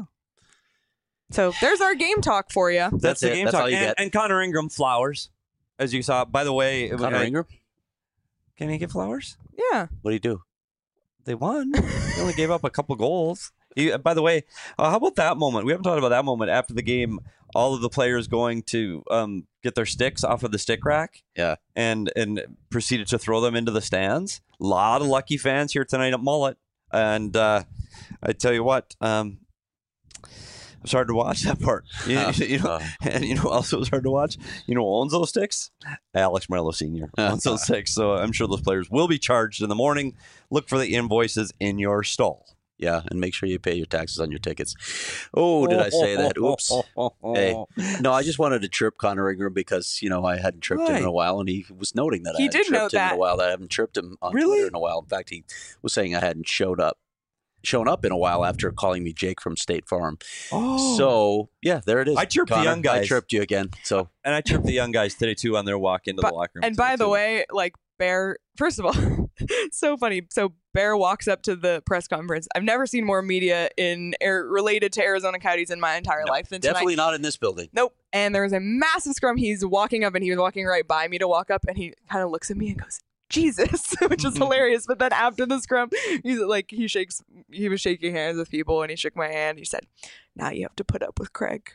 So there's our game talk for you. That's, That's the it. game That's talk. all you and, get. and Connor Ingram flowers, as you saw. By the way, Connor I- Ingram? can he get flowers? Yeah. What do you do? They won. They only gave up a couple goals. He, by the way, uh, how about that moment? We haven't talked about that moment after the game. All of the players going to um, get their sticks off of the stick rack. Yeah. And and proceeded to throw them into the stands. A lot of lucky fans here tonight at Mullet. And uh, I tell you what, um, it was hard to watch that part. You, Uh, you know, uh, and you know, what also was hard to watch. You know, who owns those sticks? Alex Morello Senior owns those sticks. So I'm sure those players will be charged in the morning. Look for the invoices in your stall. yeah, and make sure you pay your taxes on your tickets. Oh, did I say that? Oops. Hey. No, I just wanted to chirp Connor Ingram because, you know, I hadn't chirped him in Right. a while, and he was noting that I He hadn't did chirped note him in that. a while, that I haven't chirped him on Really? Twitter in a while. In fact, he was saying I hadn't showed up shown up in a while after calling me Jake from State Farm. Oh. So yeah, there it is. I chirped the Connor, young guys. I chirped you again. So And I chirped the young guys today too on their walk into But- the locker room. And today, by the too. way, like Bear, first of all, it's so funny. So Bear walks up to the press conference. I've never seen more media in air related to Arizona Coyotes in my entire no, life than tonight. definitely not in this building. Nope. And there was a massive scrum. He's walking up, and he was walking right by me to walk up, and he kind of looks at me and goes, Jesus, which is hilarious. But then after the scrum, he's like, he shakes, he was shaking hands with people, and he shook my hand. He said, now you have to put up with Craig.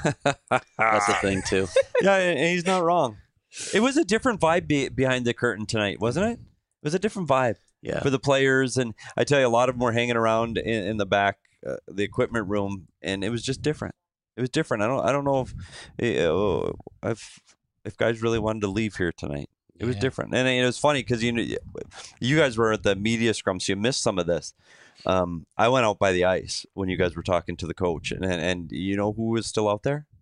That's the thing too. Yeah, and and he's not wrong. It was a different vibe be- behind the curtain tonight, wasn't it? It was a different vibe Yeah. for the players, and I tell you, a lot of them were hanging around in, in the back, uh, the equipment room, and it was just different. It was different. I don't, I don't know if, uh, if, if guys really wanted to leave here tonight. It was Yeah. different, and it was funny because you, kn- you guys were at the media scrum, so you missed some of this. Um, I went out by the ice when you guys were talking to the coach, and and, and you know who was still out there?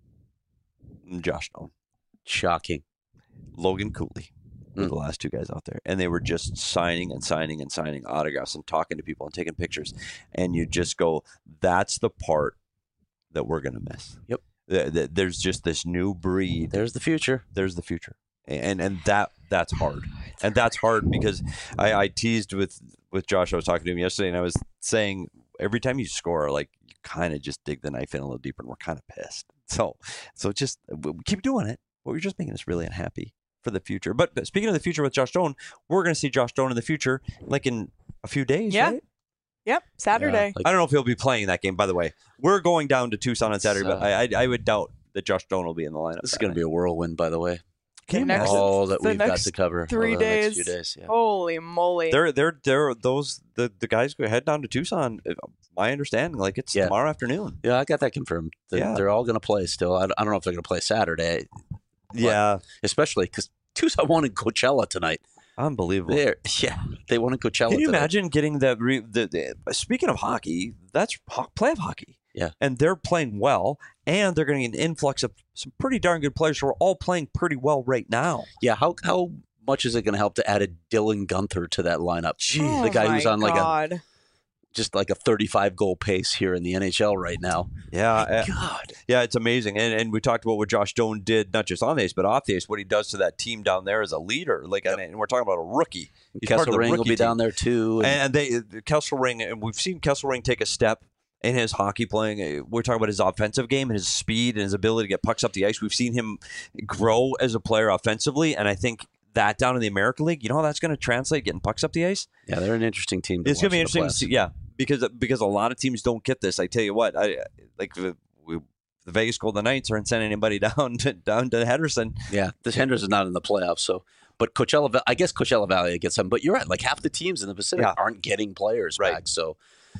Josh Stone. Shocking. Logan Cooley were Mm. the last two guys out there, and they were just signing and signing and signing autographs and talking to people and taking pictures, and you just go, that's the part that we're gonna miss. Yep. Th- th- There's just this new breed. There's the future. There's the future, and and that that's hard, and that's hard because I, I teased with with Josh. I was talking to him yesterday, and I was saying every time you score, like you kind of just dig the knife in a little deeper, and we're kind of pissed. So so just w- keep doing it. But we're just making us really unhappy for the future. But, but speaking of the future with Josh Stone, we're going to see Josh Stone in the future, like in a few days, Yeah. right? Yep. Saturday. Like, I don't know if he'll be playing that game, by the way. We're going down to Tucson on Saturday, So- but I, I I would doubt that Josh Stone will be in the lineup. this is that going to night. be a whirlwind, by the way. Can you next- imagine? All that the we've got next to cover. three over the next days. few days. Yeah. Holy moly. They're they're they're those the, the guys who head down to Tucson. uh, My understanding, like it's Yeah. tomorrow afternoon. Yeah, I got that confirmed. They're, Yeah. they're all going to play still. I, I don't know if they're going to play Saturday, Yeah, especially because Tucson won in Coachella tonight. unbelievable. There, yeah, they won in Coachella. Can you tonight. imagine getting that? Re, the, the, speaking of hockey, that's ho- play of hockey. Yeah. And they're playing well, and they're going to get an influx of some pretty darn good players who are all playing pretty well right now. Yeah, how how much is it going to help to add a Dylan Gunther to that lineup? Oh the guy my who's on like a God. just like a thirty-five goal pace here in the N H L right now. Yeah, uh, God, yeah, it's amazing. And and we talked about what Josh Stone did, not just on the ice, but off the ice, what he does to that team down there as a leader. Like, I mean, we're talking about a rookie. He's part of the Kesselring will rookie be team. down there too. and- And they Kesselring, and we've seen Kesselring take a step in his hockey playing. We're talking about his offensive game and his speed and his ability to get pucks up the ice. We've seen him grow as a player offensively, and I think that down in the American League, you know how that's going to translate getting pucks up the ice? yeah, they're an interesting team. To It's going to be watch in interesting the to playoffs. see, yeah, because because a lot of teams don't get this. I tell you what, I like the, we, the Vegas Golden Knights aren't sending anybody down to down to Henderson. Yeah, this Henderson is not in the playoffs, so. But Coachella, Va- I guess Coachella Valley gets some. But you're right; like half the teams in the Pacific Yeah. aren't getting players Right. back. So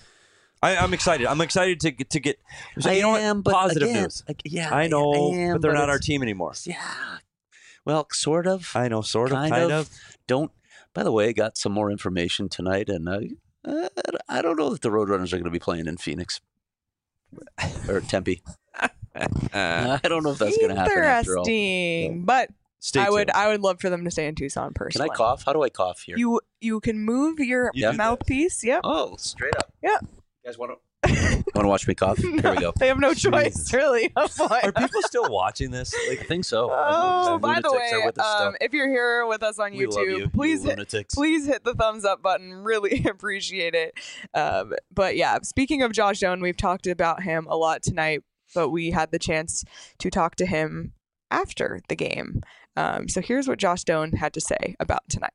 I, I'm excited. I'm excited to get to get. So, I you know what? am, but Positive again, news. like, yeah, I know, I am, but they're not our it's- team anymore. Yeah, well, sort of. I know, sort of, kind, kind, of. of. Don't. By the way, I got some more information tonight, and uh, uh, I don't know that the Roadrunners are going to be playing in Phoenix or Tempe. Uh, I don't know if that's going to happen after all. Interesting. But stay I would tuned. I would love for them to stay in Tucson Can personally. I cough? How do I cough here? You you can move your You do that. mouthpiece. Yep. oh, straight up. Yeah. You guys want to? Want to watch me cough? Here we go. They have no choice, Jesus. really. Oh, boy. Are people still watching this? I Like, think so. Oh, Those by the lunatics are way, with us still. um, if you're here with us on We YouTube, love you, you please hit, lunatics. please hit the thumbs up button. Really appreciate it. Um, but yeah, speaking of Josh Stone, we've talked about him a lot tonight, but we had the chance to talk to him after the game. Um, so here's what Josh Stone had to say about tonight.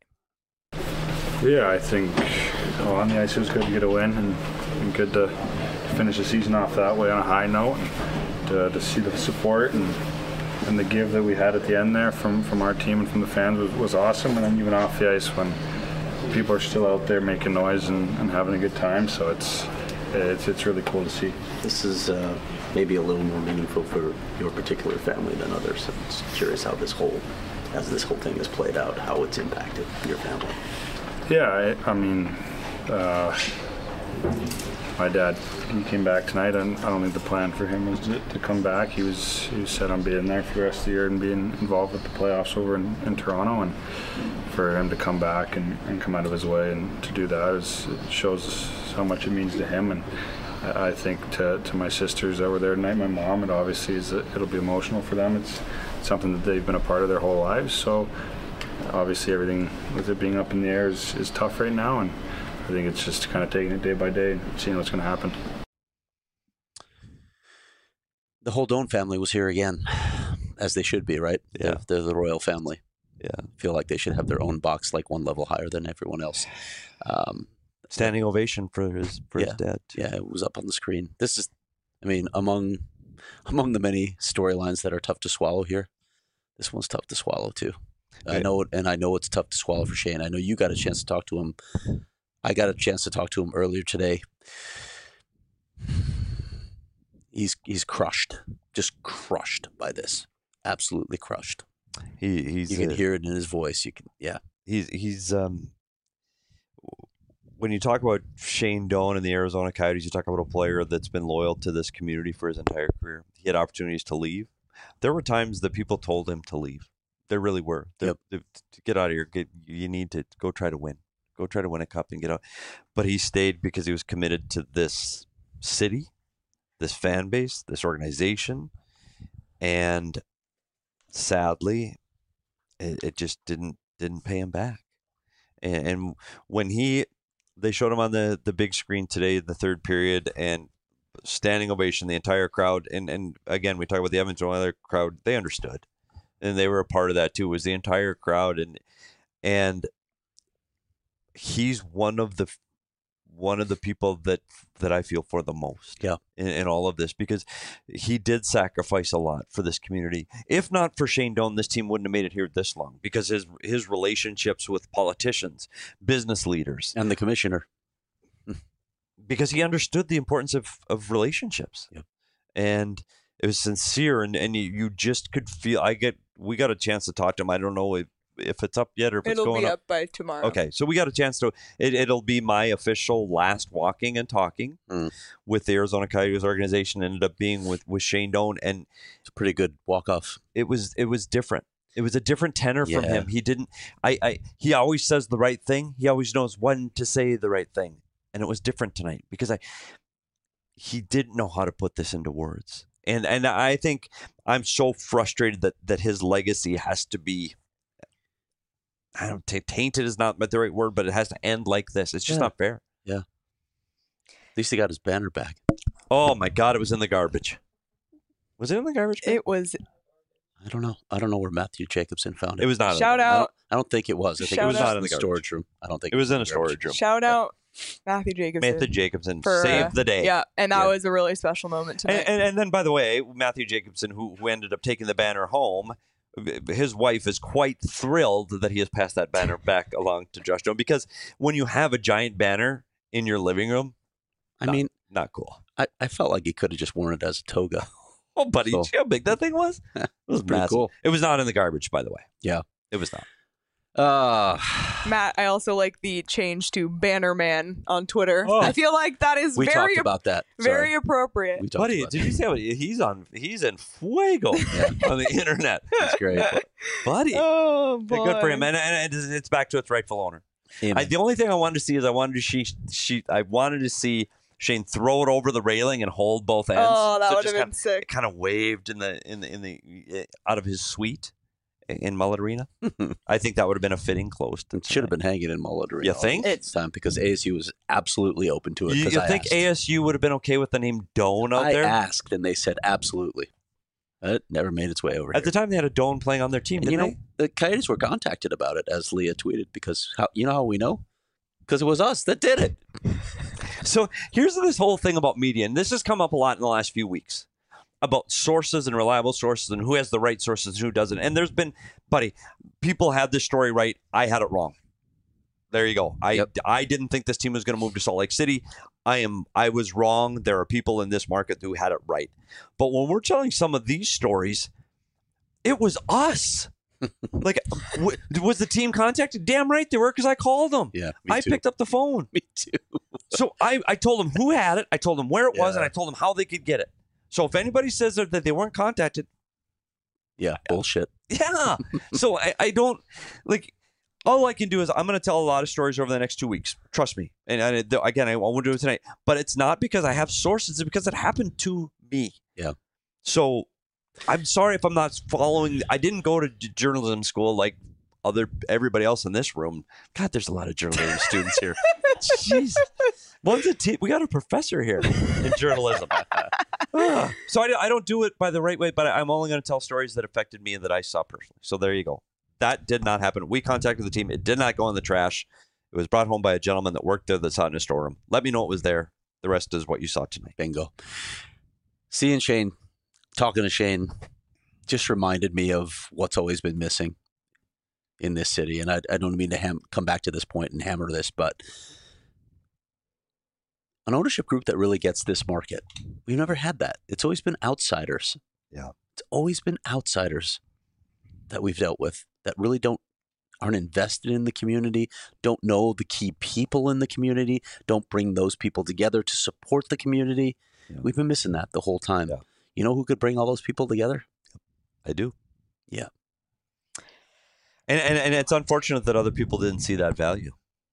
Yeah, I think oh, on the ice it was good to get a win and, and good to finish the season off that way on a high note and to, to see the support and and the give that we had at the end there from, from our team and from the fans was, was awesome. And then even off the ice when people are still out there making noise and, and having a good time. So it's it's it's really cool to see. This is uh, maybe a little more meaningful for your particular family than others. I'm just curious how this whole, as this whole thing has played out, how it's impacted your family. Yeah, I, I mean, uh, my dad, he came back tonight, and I don't think the plan for him was to, to come back. He was he was set on being there for the rest of the year and being involved with the playoffs over in, in Toronto, and for him to come back and, and come out of his way and to do that is, it shows how much it means to him. And I, I think to, to my sisters that were there tonight, my mom, it obviously is it'll be emotional for them. It's something that they've been a part of their whole lives. So obviously everything with it being up in the air is, is tough right now, and I think it's just kind of taking it day by day and seeing what's going to happen. The whole Doan family was here again, as they should be, right? Yeah. They're, they're the royal family. Yeah. I feel like they should have their own box, like one level higher than everyone else. Um, Standing ovation for his for his Yeah. dad. too. yeah, it was up on the screen. This is, I mean, among among the many storylines that are tough to swallow here, this one's tough to swallow too. I Right. know it, and I know it's tough to swallow for Shane. I know you got a chance to talk to him. I got a chance to talk to him earlier today. He's he's crushed, just crushed by this. Absolutely crushed. He he's You can uh, hear it in his voice. You can, yeah. he's he's um when you talk about Shane Doan and the Arizona Coyotes, you talk about a player that's been loyal to this community for his entire career. He had opportunities to leave. There were times that people told him to leave. There really were. There- Yep. there- to get out of here. Get, you need to go try to win. Go try to win a cup and get out. But he stayed because he was committed to this city, this fan base, this organization, and sadly, it, it just didn't didn't pay him back. And, and when he, they showed him on the the big screen today, the third period, and standing ovation, the entire crowd. And and again, we talk about the Edmonton Oilers crowd. They understood, and they were a part of that too. It was the entire crowd, and and he's one of the one of the people that that I feel for the most. Yeah. In, in all of this, because he did sacrifice a lot for this community. If not for Shane Doan, this team wouldn't have made it here this long, because his his relationships with politicians, business leaders, And the commissioner. because he understood the importance of, of relationships. Yep. And it was sincere, and, and you, you just could feel, I get, we got a chance to talk to him. I don't know if, if it's up yet or if it's It'll going be up. up by tomorrow. Okay, so we got a chance to, it, it'll be my official last walking and talking Mm. with the Arizona Coyotes organization. Ended up being with, with Shane Doan, and It's a pretty good walk-off. it was it was different. It was a different tenor from Yeah. him. He didn't. I, I. He always says the right thing. He always knows when to say the right thing, and it was different tonight because I. He didn't know how to put this into words, and and I think I'm so frustrated that that his legacy has to be. I don't t- tainted is not the right word, but it has to end like this. It's just Yeah. not fair. At least he got his banner back. Oh my God! It was in the garbage. Was it in the garbage? bin? It was I don't know. I don't know where Matthew Jacobson found it. It was not. in the shout garbage. I don't, out, I don't think it was. I think Shout it was out- just Not in in the the garbage. storage room. I don't think It was in a garbage. storage room. shout out Matthew Jacobson. Matthew Jacobson For, saved uh, the day. Yeah, and that Yeah. was a really special moment tonight. And, and, and then, by the way, Matthew Jacobson, who, who ended up taking the banner home, his wife is quite thrilled that he has passed that banner back along to Josh Doan, because when you have a giant banner in your living room, I Not- mean, not cool. I, I felt like he could have just worn it as a toga. Oh, buddy, So- see how big that thing was? It was Pretty massive. cool. It was not in the garbage, by the way. Yeah. It was not. Uh, Matt, I also like the change to Banner Man on Twitter. Oh. I feel like that is we very talked about that. very Sorry. appropriate. We talked Buddy, about did you see how he's on? He's in fuego on the internet. That's great. Buddy. Oh Yeah, boy. good for him. And, and it's it's back to its rightful owner. Amen. I, the only thing I wanted to see is I wanted to see she I wanted to see Shane throw it over the railing and hold both ends. Oh, that So it would have just been kind of, sick. it kind of waved in the in the in the uh, out of his suite in Mullet Arena. I think that would have been a fitting close. To It should have been hanging in Mullet Arena You all think? this time because A S U was absolutely open to it. You, 'cause you I think asked. A S U would have been okay with the name Doan out I there? asked and they said absolutely. It never made its way over At here. the time, they had a Doan playing on their team. And you Didn't know, the Coyotes were contacted about it, as Leah tweeted, because how you know how we know? Because it was us that did it. they? So here's this whole thing about media, and this has come up a lot in the last few weeks about sources and reliable sources and who has the right sources and who doesn't. And there's been, buddy, people had this story right. I had it wrong. There you go. I Yep. I didn't think this team was going to move to Salt Lake City. I am I was wrong. There are people in this market who had it right. But when we're telling some of these stories, it was us. Like, w- was the team contacted? Damn right they were, because I called them. Yeah, me I too. picked up the phone. Me too. So I, I told them who had it, I told them where it was, Yeah. and I told them how they could get it. So if anybody says that, that they weren't contacted, Yeah, bullshit. yeah. So I, I don't like. All I can do is I'm going to tell a lot of stories over the next two weeks. Trust me. And, and again, I won't do it tonight. But it's not because I have sources. It's because it happened to me. Yeah. So I'm sorry if I'm not following. I didn't go to j- journalism school like other everybody else in this room. God, there's a lot of journalism students here. Jeez. One's a t- we got a professor here in journalism. Ah. So I, I don't do it by the right way, but I'm only going to tell stories that affected me and that I saw personally. So there you go. That did not happen. We contacted the team. It did not go in the trash. It was brought home by a gentleman that worked there that saw it in a storeroom. Let me know it was there. The rest is what you saw tonight. Bingo. Seeing Shane, talking to Shane, just reminded me of what's always been missing in this city. And I, I don't mean to ham- come back to this point and hammer this, but an ownership group that really gets this market. We've never had that. It's always been outsiders. Yeah. It's always been outsiders that we've dealt with that really don't aren't invested in the community, don't know the key people in the community, don't bring those people together to support the community. Yeah. We've been missing that the whole time. Yeah. You know who could bring all those people together? I do. Yeah. And, and and it's unfortunate that other people didn't see that value.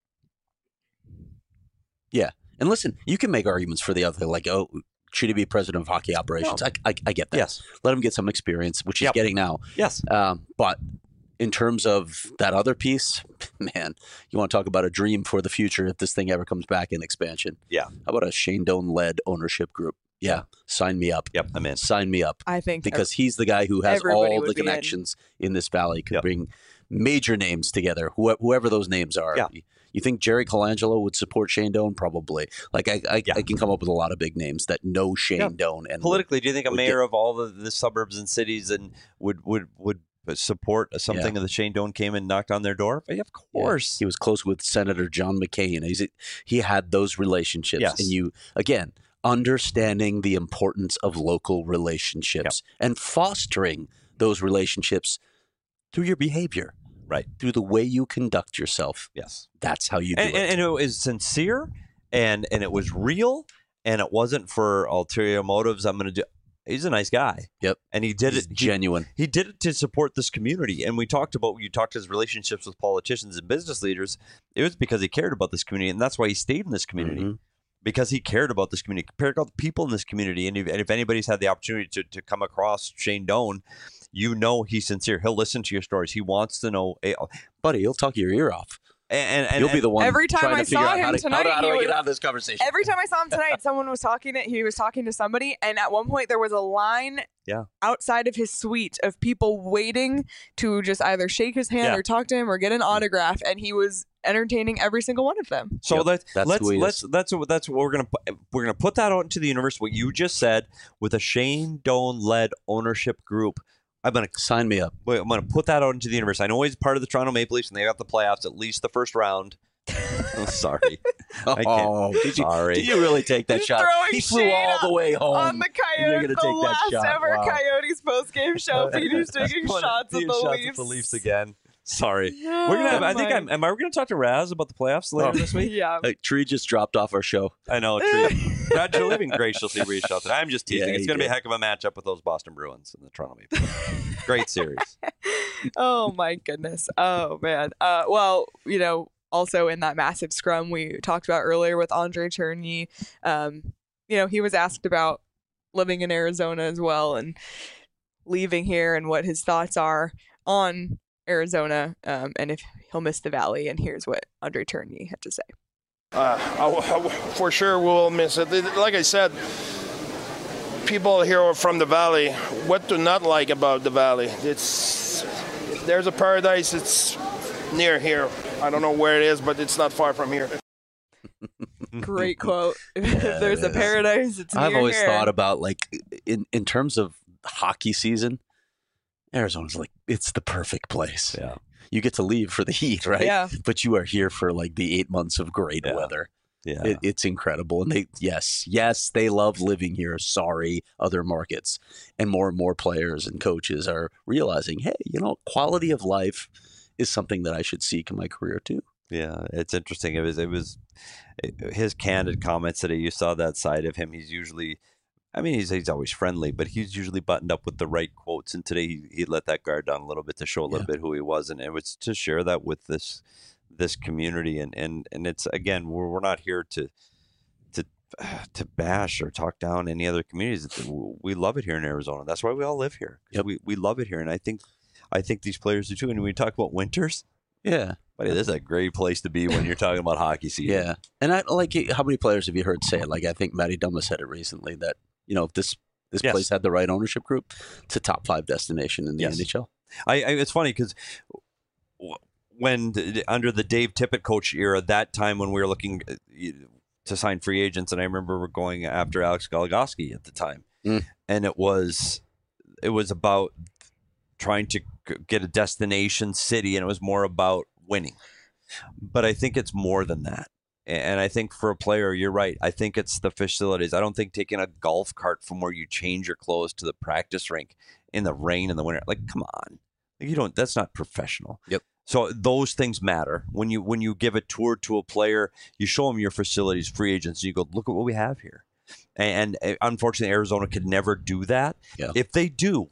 Yeah. And listen, you can make arguments for the other, like, oh, should he be president of hockey operations? No. I, I, I get that. Yes. Let him get some experience, which he's Yep. getting now. Yes. Um, but in terms of that other piece, man, you want to talk about a dream for the future if this thing ever comes back in expansion. Yeah. How about a Shane Doan-led ownership group? Yeah. Sign me up. Yep. I'm in. Sign me up. I think Because he's the guy who has Everybody all would the be in. connections in. this valley, could Yep. bring major names together, who, whoever those names are. Yeah. You think Jerry Colangelo would support Shane Doan? Probably. Like, I I, Yeah. I can come up with a lot of big names that know Shane Yeah. Doan. And Politically, do you think a would mayor get- of all the, the suburbs and cities and would would would support something that Shane Doan came and knocked on their door? Yeah, of Yeah. course. He was close with Senator John McCain. He's, he had those relationships. Yes. And you, again, understanding the importance of local relationships and fostering those relationships through your behavior. Right. Through the way you conduct yourself. Yes. That's how you do And, it. and, and it was sincere, and and it was real, and it wasn't for ulterior motives. I'm going to do. He's a nice guy. Yep. And he did He's it he- genuine. He did it to support this community. And we talked about, you talked his relationships with politicians and business leaders. It was because he cared about this community. And that's why he stayed in this community, Mhm. because he cared about this community, cared about the people in this community. And if, and if anybody's had the opportunity to, to come across Shane Doan, you know he's sincere. He'll listen to your stories. He wants to know. eh, Buddy, he'll talk your ear off. And, and, You'll be the one Every time trying I to figure saw out him how to, tonight, how, do- how do he I get was- out of this conversation. Every time I saw him tonight, someone was talking to he was talking to somebody, and at one point there was a line Yeah. outside of his suite of people waiting to just either shake his hand Yeah. or talk to him or get an autograph, and he was entertaining every single one of them. So Yep, let's that's let's who he let's is. that's what that's what we're gonna put, we're gonna put that out into the universe. What you just said with a Shane Doan led ownership group. I'm gonna Sign me up. wait, I'm gonna put that out into the universe. I know he's part of the Toronto Maple Leafs and they got the playoffs, at least the first round. I'm sorry. I can't. Oh, did you, Sorry. did you really take that He's shot? throwing He flew shade all the way home. On the and you're Coyotes, gonna the take that last shot. ever Wow. Coyotes postgame show, Peter's taking Put- shots at taking the shots Leafs. at the Leafs again. Sorry. Oh, We're gonna have, I think my- I'm am I we're gonna talk to Raz about the playoffs later Oh. this week? Yeah. Hey, Tree just dropped off our show. I know, Tree. Brad Living graciously reached out. I'm just teasing. Yeah, it's he going to be a did. heck of a matchup with those Boston Bruins and the Toronto Maple Leafs. Great series. Oh my goodness. Oh man. Uh, well, you know, also in that massive scrum we talked about earlier with Andre Chernyi, um, you know, he was asked about living in Arizona as well and leaving here and what his thoughts are on Arizona, um, and if he'll miss the Valley. And here's what Andre Chernyi had to say. Uh, I, I, for sure we'll miss it. Like I said, people here from the Valley, what to not like about the Valley? It's there's a paradise. It's near here. I don't know where it is, but it's not far from here. Great quote. If there's a paradise, it's near I've always here. thought about, like, in in terms of hockey season, Arizona's like, it's the perfect place. Yeah. You get to leave for the heat, right? Yeah. But you are here for like the eight months of great Yeah. weather. Yeah. It, it's incredible. And they, yes, yes, they love living here. Sorry, other markets. And more and more players and coaches are realizing, hey, you know, quality of life is something that I should seek in my career too. Yeah, it's interesting. It was it was his candid comments today. You saw that side of him. He's usually, I mean, he's he's always friendly, but he's usually buttoned up with the right quotes. And today he, he let that guard down a little bit to show a little Yeah. bit who he was, and it was to share that with this this community. And and and it's again, we're we're not here to to to bash or talk down any other communities. We love it here in Arizona. That's why we all live here. Yep. We we love it here, and I think I think these players do too. And when we talk about winters. Yeah. Buddy, this is a great place to be when you're talking about hockey season. Yeah. And I like how many players have you heard say it? Like I think Matty Dumba said it recently that, you know, if this this Yes. place had the right ownership group, it's a top five destination in the Yes. N H L. I, I it's funny because when under the Dave Tippett coach era, that time when we were looking to sign free agents, and I remember we're going after Alex Goligoski at the time, Mm. and it was it was about trying to get a destination city, and it was more about winning. But I think it's more than that. And I think for a player, you're right. I think it's the facilities. I don't think taking a golf cart from where you change your clothes to the practice rink in the rain in the winter, like, come on. You don't, that's not professional. Yep. So those things matter. When you when you give a tour to a player, you show them your facilities, free agents, and you go, look at what we have here. And, and unfortunately, Arizona could never do that. Yeah. If they do,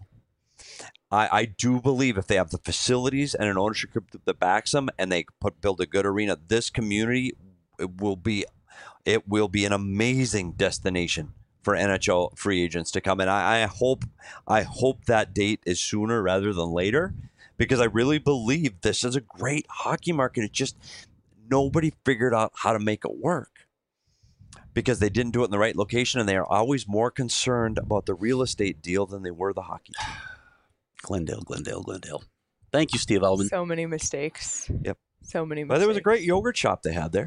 I, I do believe if they have the facilities and an ownership group that backs them, and they put build a good arena, this community it will be it will be an amazing destination for N H L free agents to come. And I, I hope I hope that date is sooner rather than later, because I really believe this is a great hockey market. It's just nobody figured out how to make it work because they didn't do it in the right location, and they are always more concerned about the real estate deal than they were the hockey team. Glendale, Glendale, Glendale. Thank you, Steve Elman. So many mistakes. Yep. So many mistakes. But there was a great yogurt shop they had there.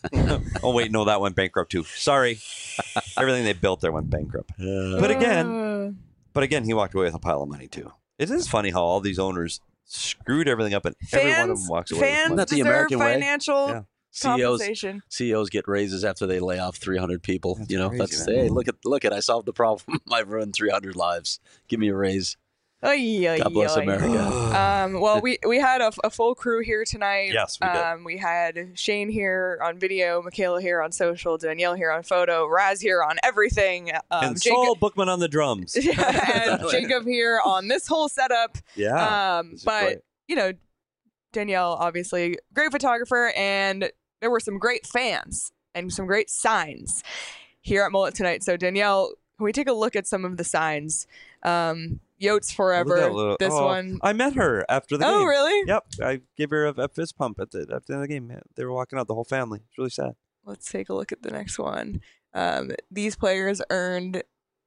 Oh, wait, no, that went bankrupt too. Sorry. Everything they built there went bankrupt. Uh, But again, Uh, but again, he walked away with a pile of money too. It is funny how all these owners screwed everything up, and every one of fans, them walks away fans with That's the deserve American way. financial Yeah. C E Os compensation. C E Os get raises after they lay off three hundred people. That's you know, crazy, that's man. hey, look at look at I solved the problem. I've ruined three hundred lives. Give me a raise. Oy, oy, God bless oy. America. Um, well, we we had a, a full crew here tonight. Yes, we did. Um, we had Shane here on video, Michaela here on social, Danielle here on photo, Raz here on everything, um, and Saul Bookman on the drums. and Jacob here on this whole setup. Yeah. Um, this is but great. you know, Danielle obviously great photographer, and there were some great fans and some great signs here at Mullet tonight. So Danielle, can we take a look at some of the signs? Um, Yotes Oh, look at Forever. that little- this oh, one. I met her after the Oh, game. really? Yep. I gave her a, a fist pump at the, at the end of the game. They were walking out, the whole family. It's really sad. Let's take a look at the next one. Um, these players earned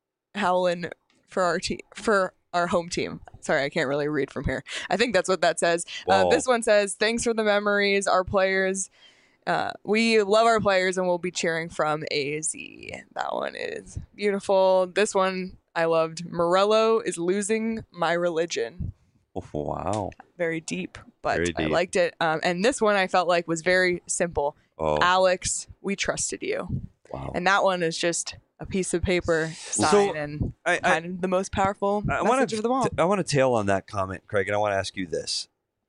Howlin for our team for our home team. Sorry, I can't really read from here. I think that's what that says. Uh, Whoa. this one says, "Thanks for the memories, our players. Uh, we love our players, and we'll be cheering from A Z." That one is beautiful. This one I loved. Morello is losing my religion. Oh, wow. Very deep, but Very I deep. liked it. Um, and this one I felt like was very simple. Oh, Alex, we trusted you. wow. And that one is just a piece of paper sign So, and I, I, kind of the most powerful I message want to of them all. I want to tail on that comment, Craig, and I want to ask you this.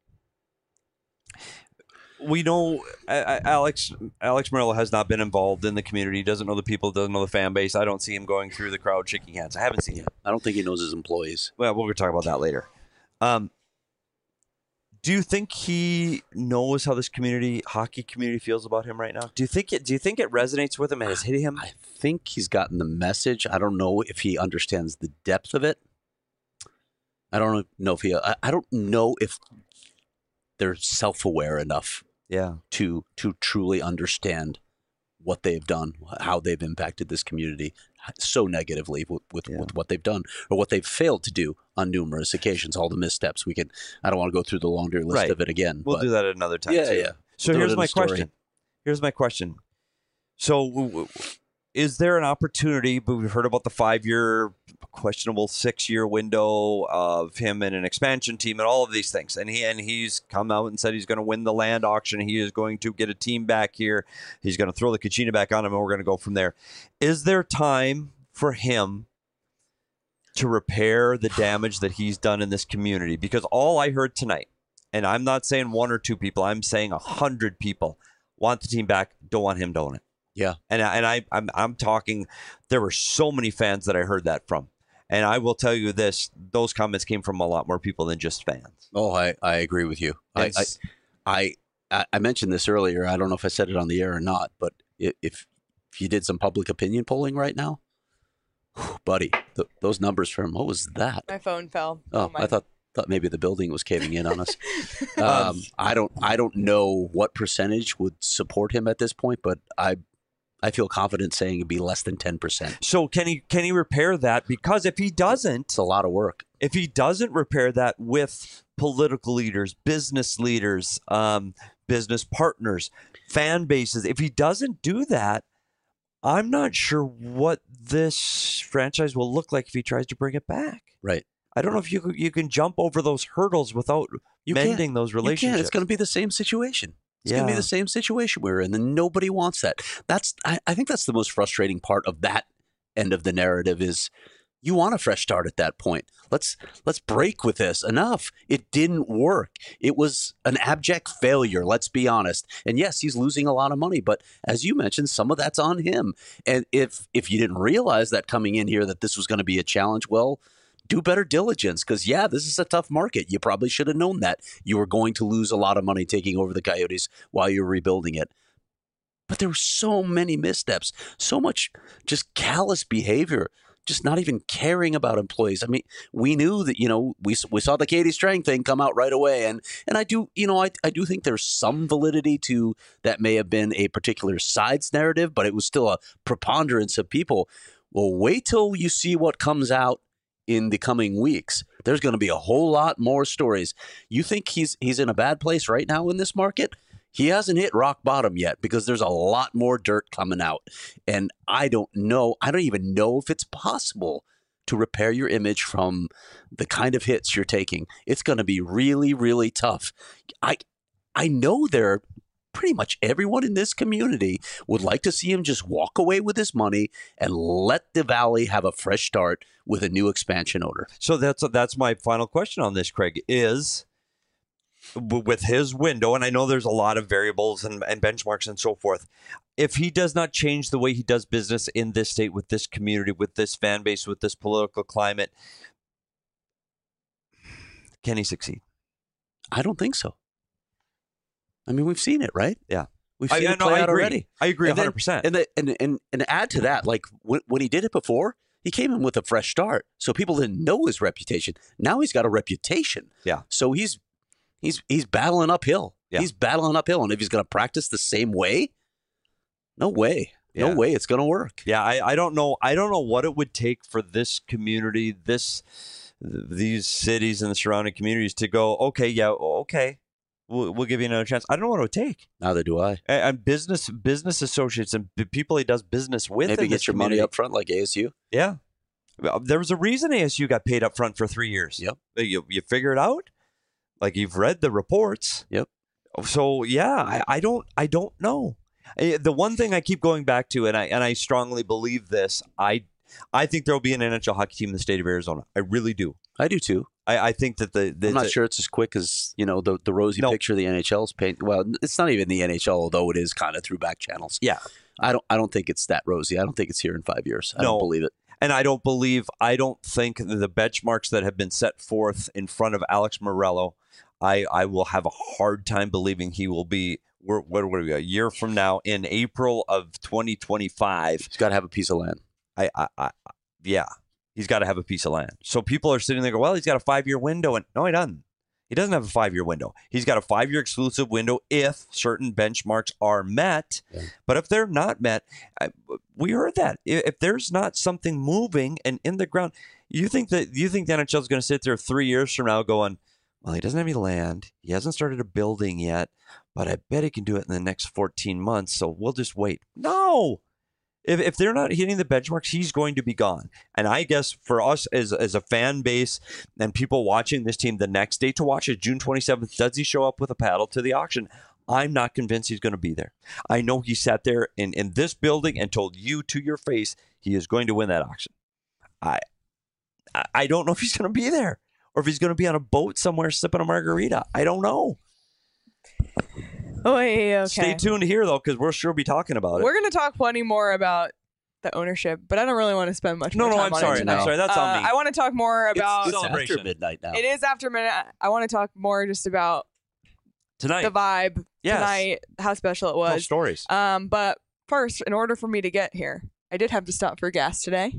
We know I, I, Alex Alex Morello has not been involved in the community, doesn't know the people, doesn't know the fan base. I don't see him going through the crowd shaking hands. I haven't seen him. I don't think he knows his employees. Well, we're going to talk about that later. Um, do you think he knows how this community, hockey community, feels about him right now? Do you think it? Do you think it resonates with him and has hit him? I think he's gotten the message. I don't know if he understands the depth of it. I don't know if he. I, I don't know if they're self-aware enough Yeah. to to truly understand what they've done, how they've impacted this community so negatively with, with, Yeah. with what they've done or what they've failed to do on numerous occasions. All the missteps. We can. I don't want to go through the laundry list Right. of it again. We'll but do that at another time. Yeah, too. yeah. So We'll do it here's in my a story. question. Here's my question. So, w- w- is there an opportunity? But we've heard about the five-year, questionable six-year window of him in an expansion team and all of these things. And he and he's come out and said he's going to win the land auction. He is going to get a team back here. He's going to throw the Kachina back on him, and we're going to go from there. Is there time for him to repair the damage that he's done in this community? Because all I heard tonight and I'm not saying one or two people, I'm saying a hundred people want the team back, don't want him to own it. Yeah. And I, and I I'm I'm talking, there were so many fans that I heard that from. And I will tell you this, those comments came from a lot more people than just fans. Oh, I, I agree with you. I, I, It's- I I mentioned this earlier. I don't know if I said it on the air or not, but i- if if you did some public opinion polling right now, whew, buddy, th- those numbers from what was that? My phone fell. Oh, my. I thought thought maybe the building was caving in on us. um, I don't I don't know what percentage would support him at this point, but I I feel confident saying it'd be less than ten percent. So can he can he repair that? Because if he doesn't, It's a lot of work. if he doesn't repair that with political leaders, business leaders, um, business partners, fan bases, if he doesn't do that, I'm not sure what this franchise will look like if he tries to bring it back. Right. I don't know if you could- you can jump over those hurdles without You mending can't. those You can't. relationships. It's going to be the same situation. It's going to be Yeah. the same situation we're in, and nobody wants that. That's I, I think that's the most frustrating part of that end of the narrative is you want a fresh start at that point. Let's let's break with this. Enough. It didn't work. It was an abject failure, let's be honest. And yes, he's losing a lot of money, but as you mentioned, some of that's on him. And if if you didn't realize that coming in here that this was going to be a challenge, well, do better diligence because, yeah, this is a tough market. You probably should have known that. You were going to lose a lot of money taking over the Coyotes while you were rebuilding it. But there were so many missteps, so much just callous behavior, just not even caring about employees. I mean, we knew that, you know, we we saw the Katie Strang thing come out right away. And and I do, you know, I, I do think there's some validity to that may have been a particular side's narrative, but it was still a preponderance of people. Well, wait till you see what comes out in the coming weeks. There's going to be a whole lot more stories. You think he's he's in a bad place right now in this market? He hasn't hit rock bottom yet because there's a lot more dirt coming out. And I don't know. I don't even know if it's possible to repair your image from the kind of hits you're taking. It's going to be really, really tough. I I know there are pretty much everyone in this community would like to see him just walk away with his money and let the Valley have a fresh start with a new expansion owner. So that's that's my final question on this, Craig, is w- with his window, and I know there's a lot of variables and, and benchmarks and so forth, if he does not change the way he does business in this state, with this community, with this fan base, with this political climate, can he succeed? I don't think so. I mean, we've seen it, right? Yeah. We've I, seen I, it no, play I out agree. already. I agree And then- one hundred percent. And, the, and and and add to that, like when, when he did it before, he came in with a fresh start, so people didn't know his reputation. Now he's got a reputation. Yeah. So he's he's he's battling uphill. Yeah. He's battling uphill, and if he's going to practice the same way, no way, no Yeah. way, it's going to work. Yeah, I, I don't know. I don't know what it would take for this community, this these cities and the surrounding communities to go, okay, yeah, okay, we'll, we'll give you another chance. I don't know what it would take. Neither do I. And, and business business associates and b- people he does business with. Maybe in get this your money community. up front like A S U. Yeah, Well, there was a reason A S U got paid up front for three years. Yep. You you figure it out. Like you've read the reports. Yep. So yeah, I, I don't I don't know. Eh, The one thing I keep going back to, and I and I strongly believe this, I I think there will be an N H L hockey team in the state of Arizona. I really do. I do too. I, I think that the, the I'm not the- sure it's as quick as, you know, the the rosy No. picture the N H L's paint. Well, it's not even the N H L, although it is kind of through back channels. Yeah. I don't I don't think it's that rosy. I don't think it's here in five years. I No. don't believe it. And I don't believe, I don't think the benchmarks that have been set forth in front of Alex Morello, I, I will have a hard time believing he will be, we're, what are we, a year from now, in April of twenty twenty-five. He's got to have a piece of land. I, I, I yeah, he's got to have a piece of land. So people are sitting there go, well, he's got a five-year window. And no, he doesn't. He doesn't have a five-year window. He's got a five-year exclusive window if certain benchmarks are met. Yeah. But if they're not met, I, we heard that. If, if there's not something moving and in the ground, you think that you think the N H L is going to sit there three years from now going, well, he doesn't have any land. He hasn't started a building yet, but I bet he can do it in the next fourteen months. So we'll just wait. No. If, if they're not hitting the benchmarks, he's going to be gone. And I guess for us as, as a fan base and people watching this team, the next day to watch it, June twenty-seventh, does he show up with a paddle to the auction? I'm not convinced he's going to be there. I know he sat there in, in this building and told you to your face he is going to win that auction. I I- I don't know if he's going to be there. or if he's going to be on a boat somewhere sipping a margarita. I don't know. Oh, yeah, okay. Stay tuned here, though, because we'll sure be talking about it. We're going to talk plenty more about the ownership, but I don't really want to spend much no, more no, time I'm on sorry. it tonight. I'm sorry. That's uh, on me. I want to talk more about... It's celebration. after midnight now. It is after midnight. I want to talk more just about Tonight. the vibe Yes. tonight, how special it Tell was. stories. Um, but first, in order for me to get here, I did have to stop for gas today.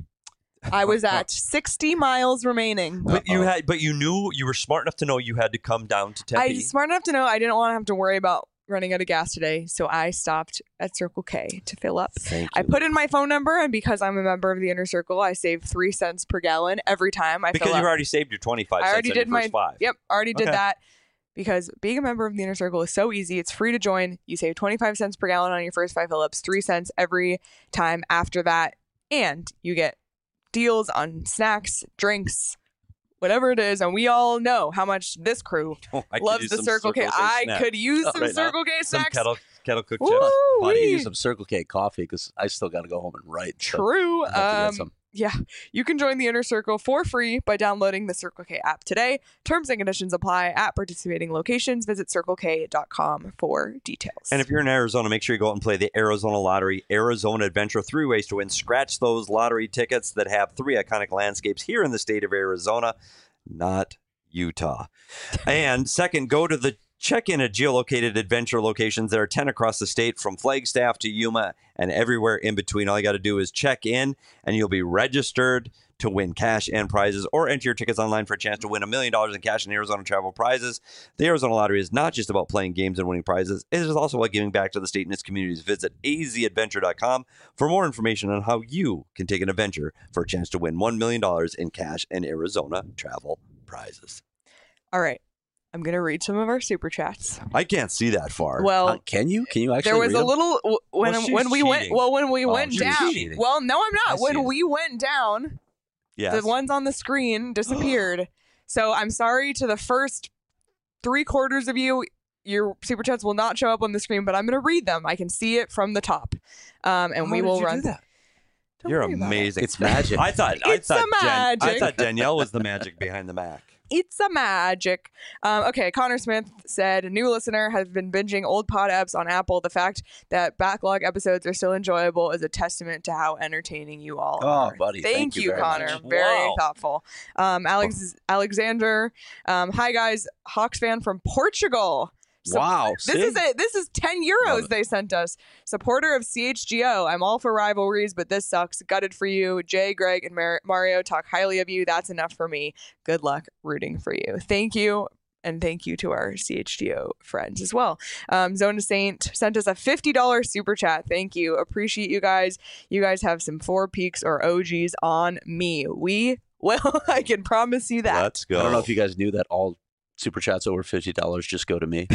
I was at sixty miles remaining. But you had, but you knew, you were smart enough to know you had to come down to Tempe. I was smart enough to know I didn't want to have to worry about running out of gas today, so I stopped at Circle K to fill up. Thank you. I put in my phone number, and because I'm a member of the Inner Circle, I save three cents per gallon every time I because fill you've up. already saved your twenty-five I cents already on did your my first five. Yep, already did Okay. that. Because being a member of the Inner Circle is so easy. It's free to join. You save twenty-five cents per gallon on your first five fill-ups, three cents every time after that, and you get deals on snacks, drinks, whatever it is. And we all know how much this crew Oh, I could loves use the some Circle K. I snack. could use Oh, some right now. Circle K some snacks. kettle kettle cooked Woo! chips. I need to Wee. use some Circle K coffee because I still got to go home and write. so True. I'll have to get Um, some. yeah, you can join the Inner Circle for free by downloading the Circle K app today. Terms and conditions apply at participating locations. Visit circle k dot com for details. And if you're in Arizona, make sure you go out and play the Arizona Lottery, Arizona Adventure. Three ways to win. Scratch those lottery tickets that have three iconic landscapes here in the state of Arizona, not Utah. And second, go to the check-in at geolocated adventure locations. There are ten across the state, from Flagstaff to Yuma and everywhere in between. All you got to do is check in, and you'll be registered to win cash and prizes, or enter your tickets online for a chance to win a million dollars in cash and Arizona travel prizes. The Arizona Lottery is not just about playing games and winning prizes. It is also about giving back to the state and its communities. Visit a z adventure dot com for more information on how you can take an adventure for a chance to win one million dollars in cash and Arizona travel prizes. All right, I'm going to read some of our super chats. I can't see that far. Well, Uh, can you? Can you actually? there was read a them? little w- when Well, she's when we went cheating. well when we Oh, went she's down. cheating. Well, no, I'm I not. see When it. we went down, yes. the ones on the screen disappeared. So I'm sorry to the first three quarters of you. Your super chats will not show up on the screen, but I'm going to read them. I can see it from the top, um, and How we did will you run. do that? Don't You're worry about it. amazing. It's magic. I thought I It's thought the Jen- I magic. thought Danielle was the magic behind the Mac. It's a magic. Um, okay, Connor Smith said, new listener, has been binging old pod apps on Apple. The fact that backlog episodes are still enjoyable is a testament to how entertaining you all Oh, are. buddy, Thank, thank you you, very Connor. much. Very Wow. thoughtful. Um, Alex Alexander, um, hi guys, Hawks fan from Portugal. So- Wow. This see? is it. This is ten Love euros it. they sent us. Supporter of C H G O. I'm all for rivalries, but this sucks. Gutted for you. Jay, Greg, and Mar- Mario talk highly of you. That's enough for me. Good luck rooting for you. Thank you. And thank you to our C H G O friends as well. Um, Zona Saint sent us a fifty dollars super chat. Thank you. Appreciate you guys. You guys have some Four Peaks or O Gs on me. We will. I can promise you that. Let's go. I don't know if you guys knew that all super chats over fifty dollars just go to me.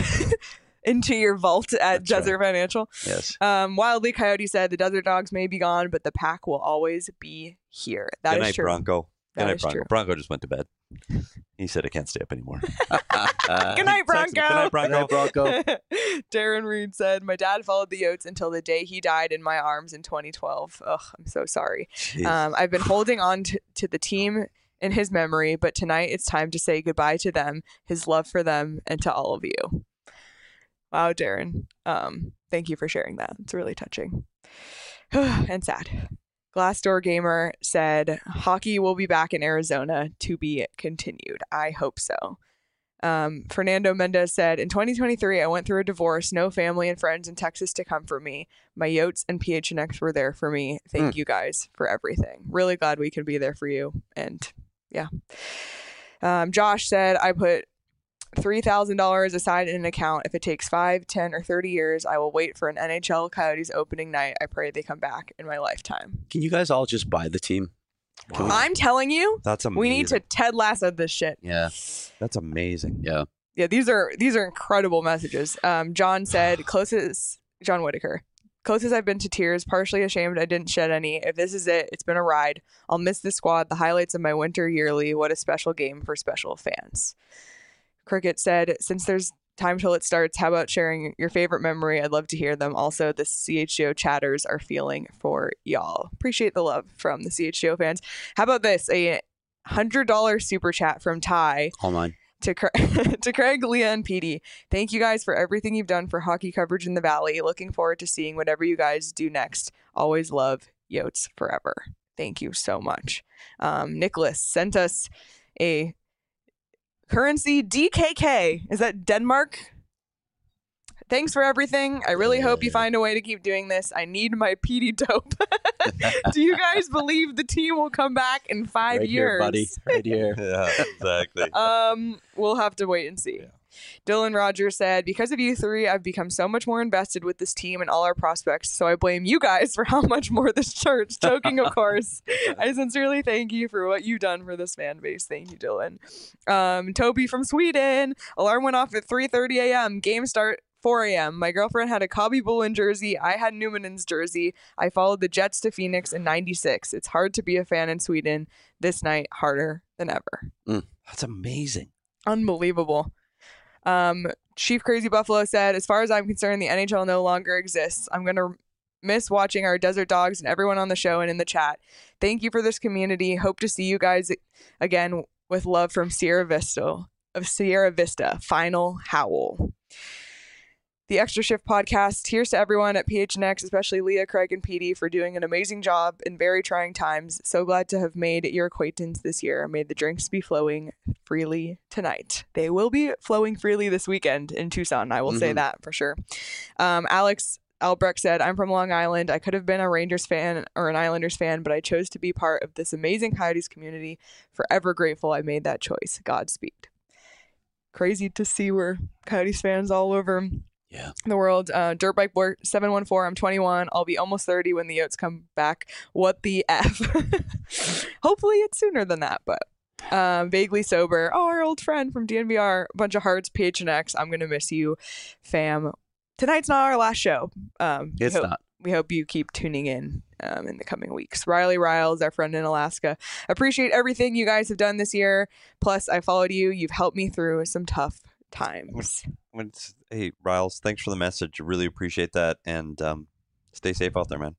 Into your vault at That's right. Desert Financial. Yes. Um, Wildly Coyote said the Desert Dogs may be gone, but the pack will always be here. That Good is night, true. Bronco. That Good night, is Bronco. true. Bronco just went to bed. He said I can't stay up anymore. Good night, Bronco. Good night, Bronco. Bronco. Darren Reed said, my dad followed the Yotes until the day he died in my arms in twenty twelve. Ugh, I'm so sorry. Jeez. Um, I've been holding on to, to the team in his memory, but tonight it's time to say goodbye to them, his love for them, and to all of you. Wow, Darren. Um, thank you for sharing that. It's really touching and sad. Glassdoor Gamer said, hockey will be back in Arizona to be continued. I hope so. Um, Fernando Mendez said, in twenty twenty-three, I went through a divorce, no family and friends in Texas to comfort me. My Yotes and P H N X were there for me. Thank you guys for everything. Really glad we could be there for you. And yeah. Um, Josh said, I put three thousand dollars aside in an account. If it takes five, ten, or thirty years, I will wait for an N H L Coyotes opening night. I pray they come back in my lifetime. Can you guys all just buy the team? Can we- I'm telling you, That's amazing. we need to Ted Lasso this shit. Yeah. That's amazing. Yeah. Yeah, these are these are incredible messages. Um, John said, closest John Whitaker. Closest I've been to tears, partially ashamed I didn't shed any. If this is it, it's been a ride. I'll miss the squad, the highlights of my winter yearly. What a special game for special fans. Cricket said, since there's time till it starts, how about sharing your favorite memory? I'd love to hear them. Also, the C H G O chatters are feeling for y'all. Appreciate the love from the C H G O fans. How about this? A hundred dollars super chat from Ty. All mine. To, Cra- to Craig, Leah, and Petey. Thank you guys for everything you've done for hockey coverage in the Valley. Looking forward to seeing whatever you guys do next. Always love Yotes forever. Thank you so much. Um, Nicholas sent us a currency D K K. Is that Denmark? Thanks for everything. I really hope you find a way to keep doing this. I need my Petey dope. Do you guys believe the team will come back in five Right years? here, buddy. Right here. Yeah, exactly. Um, we'll have to wait and see. Yeah. Dylan Rogers said, because of you three, I've become so much more invested with this team and all our prospects, so I blame you guys for how much more this church. Joking, of course. I sincerely thank you for what you've done for this fan base. Thank you, Dylan. Um, Toby from Sweden. Alarm went off at three thirty a.m. Game start four a.m. My girlfriend had a Cobby Bullen jersey. I had Numanen's jersey. I followed the Jets to Phoenix in ninety-six. It's hard to be a fan in Sweden. This night, harder than ever. Mm. That's amazing. Unbelievable. Um, Chief Crazy Buffalo said, as far as I'm concerned, the N H L no longer exists. I'm going to miss watching our Desert Dogs and everyone on the show and in the chat. Thank you for this community. Hope to see you guys again with love from Sierra Vista of Sierra Vista. Final Howl. The Extra Shift podcast. Here's to everyone at P H N X, especially Leah, Craig, and Petey, for doing an amazing job in very trying times. So glad to have made your acquaintance this year. May the drinks be flowing freely tonight. They will be flowing freely this weekend in Tucson. I will mm-hmm. say that for sure. Um, Alex Albrecht said, I'm from Long Island. I could have been a Rangers fan or an Islanders fan, but I chose to be part of this amazing Coyotes community. Forever grateful I made that choice. Godspeed. Crazy to see we're Coyotes fans all over Yeah. the world. Uh, Dirtbike Boy seven one four. I'm twenty-one. I'll be almost thirty when the Yotes come back. What the F? Hopefully it's sooner than that, but um, vaguely sober. Oh, our old friend from D N V R. Bunch of hearts. P H N X. I'm gonna miss you, fam. Tonight's not our last show. Um, It's we hope, not. We hope you keep tuning in um, in the coming weeks. Riley Riles, our friend in Alaska. Appreciate everything you guys have done this year. Plus, I followed you. You've helped me through some tough times. When it's, hey, Riles, thanks for the message. Really appreciate that. And um, stay safe out there, man.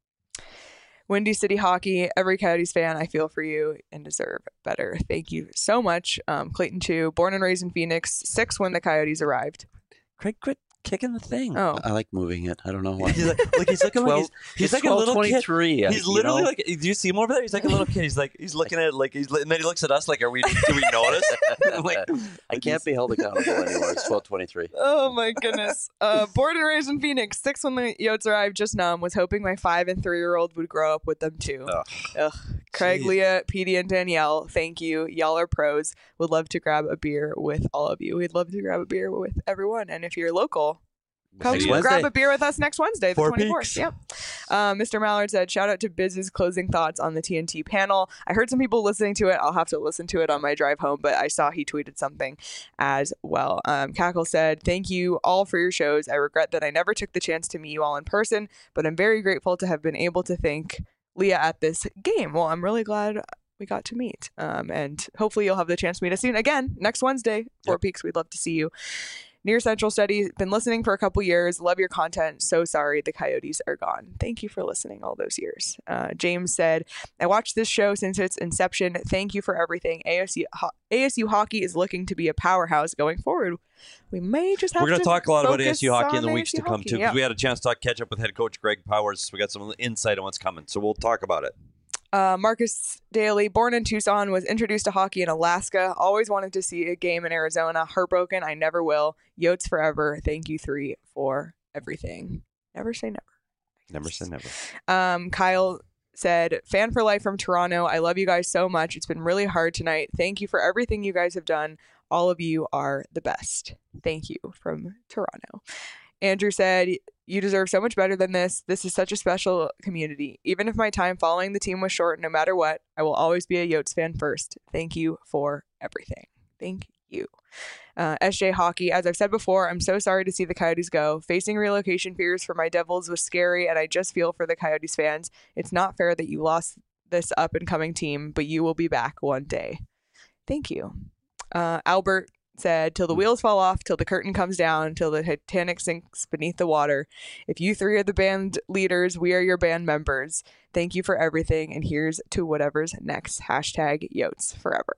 Windy City Hockey, every Coyotes fan, I feel for you and deserve better. Thank you so much. Um, Clayton two, born and raised in Phoenix, six when the Coyotes arrived. Craig, quit kicking the thing. Oh, I like moving it. I don't know why. He's like, like he's looking like he's, he's like a little kid. twenty-three. He's literally like, do you see him over there? He's like a little kid. He's like, he's looking at it like, he's, and then he looks at us like, are we, do we notice? I'm like, I can't be held accountable anymore. It's twelve twenty-three. oh my goodness. Uh, born and raised in Phoenix, six when the Yotes arrived, just numb. Was hoping my five and three year old would grow up with them too. Ugh. Ugh. Craig, Jeez. Leah, Petey, and Danielle, thank you. Y'all are pros. Would love to grab a beer with all of you. We'd love to grab a beer with everyone. And if you're local, come Next grab Wednesday. a beer with us next Wednesday, the Four twenty-fourth. peaks. Yep. Um, Mister Mallard said, shout out to Biz's closing thoughts on the T N T panel. I heard some people listening to it. I'll have to listen to it on my drive home, but I saw he tweeted something as well. Um, Cackle said, thank you all for your shows. I regret that I never took the chance to meet you all in person, but I'm very grateful to have been able to thank Leah at this game. Well, I'm really glad we got to meet. Um, and hopefully you'll have the chance to meet us soon. Again, next Wednesday, Four Yep. Peaks. We'd love to see you. Near Central Study, been listening for a couple years. Love your content. So sorry the Coyotes are gone. Thank you for listening all those years. Uh, James said, I watched this show since its inception. Thank you for everything. A S U, ho- A S U hockey is looking to be a powerhouse going forward. We may just have We're going to to talk a lot about focus A S U hockey in the on weeks A S U to come, hockey. too, because Yeah. we had a chance to talk, catch up with head coach Greg Powers. We got some insight on what's coming, so we'll talk about it. Uh, Marcus Daly, born in Tucson, was introduced to hockey in Alaska. Always wanted to see a game in Arizona. Heartbroken. I never will. Yotes forever. Thank you three for everything. Never say never. Never say never. Um, Kyle said, fan for life from Toronto. I love you guys so much. It's been really hard tonight. Thank you for everything you guys have done. All of you are the best. Thank you from Toronto. Andrew said, you deserve so much better than this. This is such a special community. Even if my time following the team was short, no matter what, I will always be a Yotes fan first. Thank you for everything. Thank you. Uh, S J Hockey, as I've said before, I'm so sorry to see the Coyotes go. Facing relocation fears for my Devils was scary, and I just feel for the Coyotes fans. It's not fair that you lost this up-and-coming team, but you will be back one day. Thank you. Uh, Albert said, till the wheels fall off, till the curtain comes down, till the Titanic sinks beneath the water. If you three are the band leaders, we are your band members. Thank you for everything, and here's to whatever's next. Hashtag Yotes forever.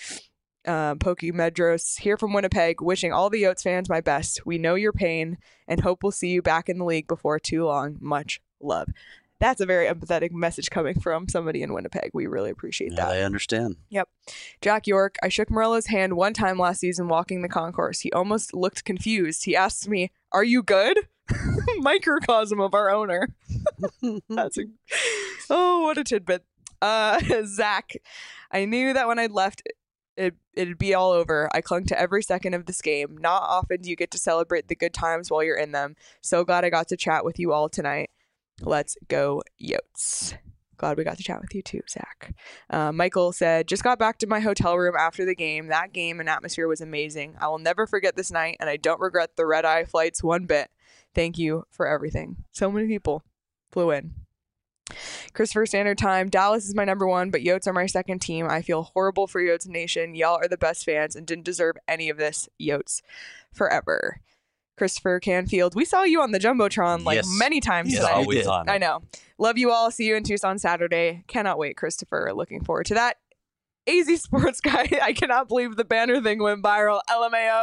Um, Pokey Medros here from Winnipeg, wishing all the Yotes fans my best. We know your pain and hope we'll see you back in the league before too long. Much love. That's a very empathetic message coming from somebody in Winnipeg. We really appreciate that. I understand. Yep. Jack York, I shook Morello's hand one time last season walking the concourse. He almost looked confused. He asked me, "Are you good?" Microcosm of our owner. That's a, oh, what a tidbit. Uh, Zach, I knew that when I'd left, it, it'd be all over. I clung to every second of this game. Not often do you get to celebrate the good times while you're in them. So glad I got to chat with you all tonight. Let's go Yotes. Glad we got to chat with you too, Zach. Uh, Michael said, just got back to my hotel room after the game. That game and atmosphere was amazing. I will never forget this night, and I don't regret the red-eye flights one bit. Thank you for everything. So many people flew in. Christopher Standard Time, Dallas is my number one, but Yotes are my second team. I feel horrible for Yotes Nation. Y'all are the best fans and didn't deserve any of this. Yotes forever. Christopher Canfield, we saw you on the Jumbotron like Yes. many times Yes, tonight. we did. on. I know. Love you all. See you in Tucson Saturday. Cannot wait, Christopher. Looking forward to that. A Z Sports Guy, I cannot believe the banner thing went viral. L M A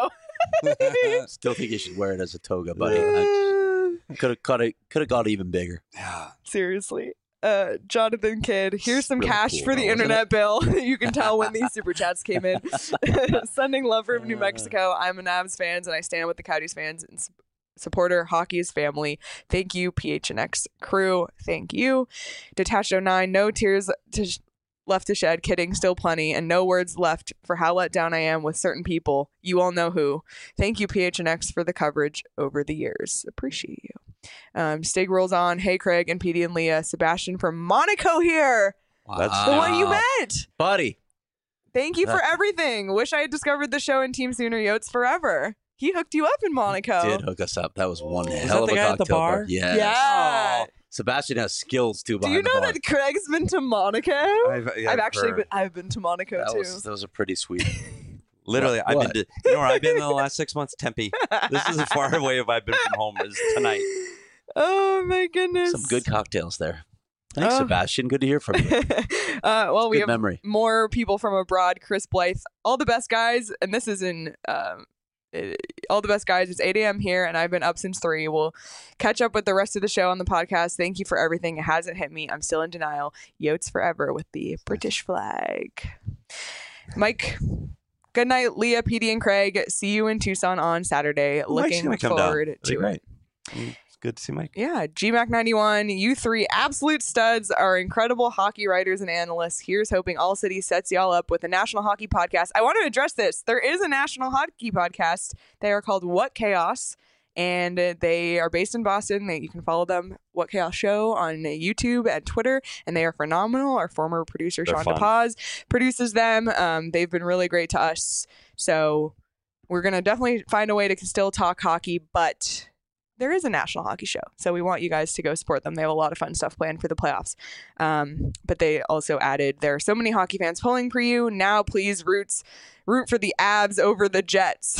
O. Still think you should wear it as a toga, buddy. Could have cut it. Could have got even bigger. Seriously. Uh, Jonathan Kidd, here's some Really cash cool, for the though, wasn't internet bill. You can tell when these super chats came in. Sending love from New Mexico. I'm an Avs fans and I stand with the Coyotes fans and s- supporter. Hockey is family. Thank you, P H N X crew. Thank you. Detached oh nine, no tears to sh- left to shed. Kidding, still plenty. And no words left for how let down I am with certain people. You all know who. Thank you, P H N X, for the coverage over the years. Appreciate you. Um, Stig rolls on. Hey, Craig and Petey and Leah. Sebastian from Monaco here. That's The Wow. one you met. buddy. Thank you for That- everything. Wish I had discovered the show and Team Sooner Yotes forever. He hooked you up in Monaco. Did hook us up. That was one Was hell that of the a guy at the cocktail bar? Yes. Yeah. Sebastian has skills too Do behind you know the bar. that Craig's been to Monaco? I've, yeah, I've actually heard. been. I've been to Monaco that too. was that was a pretty sweet. Literally, What? I've What? been to, you know where I've been in the last six months? Tempe. This is as far away as I've been from home as tonight. Oh my goodness. Some good cocktails there. Thanks, Oh. Sebastian. Good to hear from you. uh, well, we Good have memory. more people from abroad. Chris Blythe, all the best guys, and this is in um, it, all the best guys. It's eight a.m. here, and I've been up since three. We'll catch up with the rest of the show on the podcast. Thank you for everything. It hasn't hit me. I'm still in denial. Yotes forever with the British flag. Mike. Good night, Leah, Petey, and Craig. See you in Tucson on Saturday. Oh, Mike's Looking gonna come down. forward That'd be to it. great. Mm, It's good to see Mike. Yeah, G Mac ninety-one, you three absolute studs are incredible hockey writers and analysts. Here's hoping All City sets y'all up with a national hockey podcast. I want to address this. There is a national hockey podcast. They are called What Chaos, and uh, they are based in Boston. They, you can follow them, What Chaos Show, on YouTube and Twitter, and they are phenomenal. Our former producer, They're Sean fun. DePaz, produces them. Um, they've been really great to us. So we're going to definitely find a way to still talk hockey, but there is a national hockey show. So we want you guys to go support them. They have a lot of fun stuff planned for the playoffs. Um, but they also added, there are so many hockey fans pulling for you. Now please roots, root for the Avs over the Jets.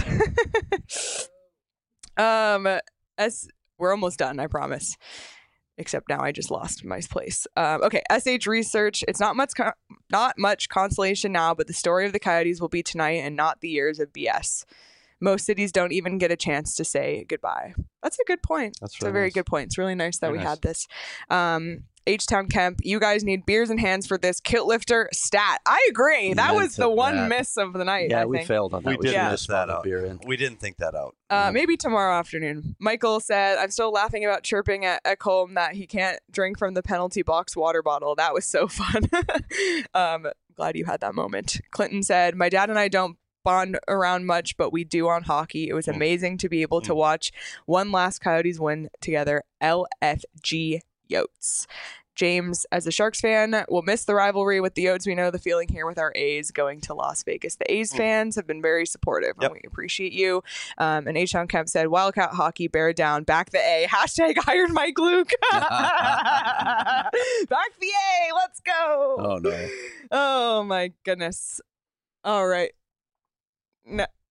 um, as we're almost done, I promise. Except now I just lost my place. Um, okay, S H Research. It's not much, co- not much consolation now, but the story of the Coyotes will be tonight and not the years of B S. Most cities don't even get a chance to say goodbye. That's a good point. That's It's a really very nice. good point. It's really nice that Very we nice. had this. Um, H-Town Kemp, you guys need beers and hands for this kilt lifter stat. I agree. That Amen was to the one that. miss of the night. Yeah, I we think. failed on that. We did should've miss just that brought a out. beer in. We didn't think that out. Uh, maybe tomorrow afternoon. Michael said, I'm still laughing about chirping at Ekholm that he can't drink from the penalty box water bottle. That was so fun. um, glad you had that moment. Clinton said, my dad and I don't bond around much, but we do on hockey. It was Mm. amazing to be able to Mm. watch one last Coyotes win together. L F G Yotes. James, as a Sharks fan, will miss the rivalry with the Yotes. We know the feeling here with our A's going to Las Vegas. The A's Mm. fans have been very supportive, Yep. and we appreciate you. Um, and H-Town Kemp said, Wildcat hockey, bear it down. Back the A. Hashtag hired Mike Luke. Back the A. Let's go. Oh no. Oh, my goodness. All right. No.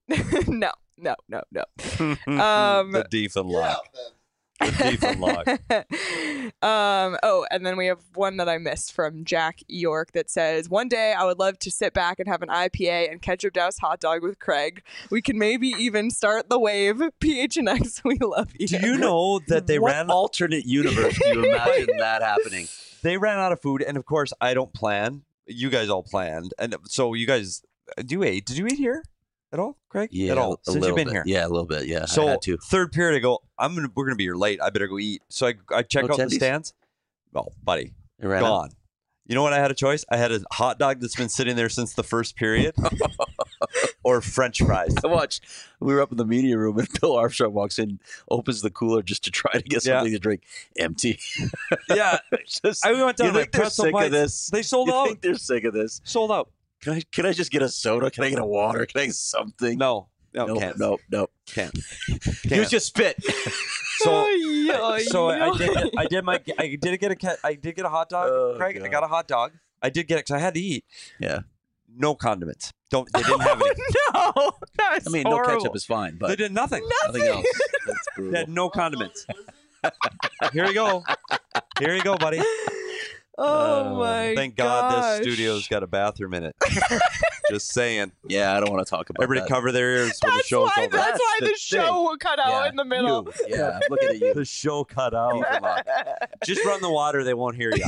no, no, no, no. Um, the deep and lock. The deep and lock. um, oh, and then we have one that I missed from Jack York that says, one day I would love to sit back and have an I P A and ketchup doused hot dog with Craig. We can maybe even start the wave. P H N X, we love you. Do you know that they what ran alternate universe do you imagine that happening? They ran out of food, and of course, I don't plan. You guys all planned, and so you guys do you eat? Did you eat here at all, Craig? Yeah, at all a since little you've been bit. here. Yeah, a little bit. Yeah, So I had to. third period, I go. I'm gonna. We're gonna be here late. I better go eat. So I I check No out the tendies? stands. Oh, buddy, It ran out. gone. You know what? I had a choice. I had a hot dog that's been sitting there since the first period, or French fries. I watched. We were up in the media room, and Bill Armstrong walks in, opens the cooler just to try to get Yeah. something to drink. Empty. Yeah, Just, I went down you to think they're pretzel sick bites. of this? They sold you out. think they're sick of this? Sold out. Can I? Can I just get a soda? Can I get a water? Can I get something? No, no, no, can't. no, no. Can't. Use your spit. So, Ay, so I, I ay, did. I did my. I did get a. ca- I did get a hot dog, Oh, Craig. I God. got a hot dog. I did get it because I had to eat. Yeah. No condiments. Don't. They didn't have any. no, that's I mean, horrible. no ketchup is fine, They but did nothing. nothing else. That's They brutal. had no condiments. Here you go. Here you go, buddy. Oh my Thank God gosh. this studio's got a bathroom in it. Just saying. Yeah, I don't want to talk about Everybody that. cover their ears when the That's show's why, over. that's why the the show cut out Yeah, in the middle. you. Yeah, I'm looking at you. The show cut out. Just run the water. They won't hear you.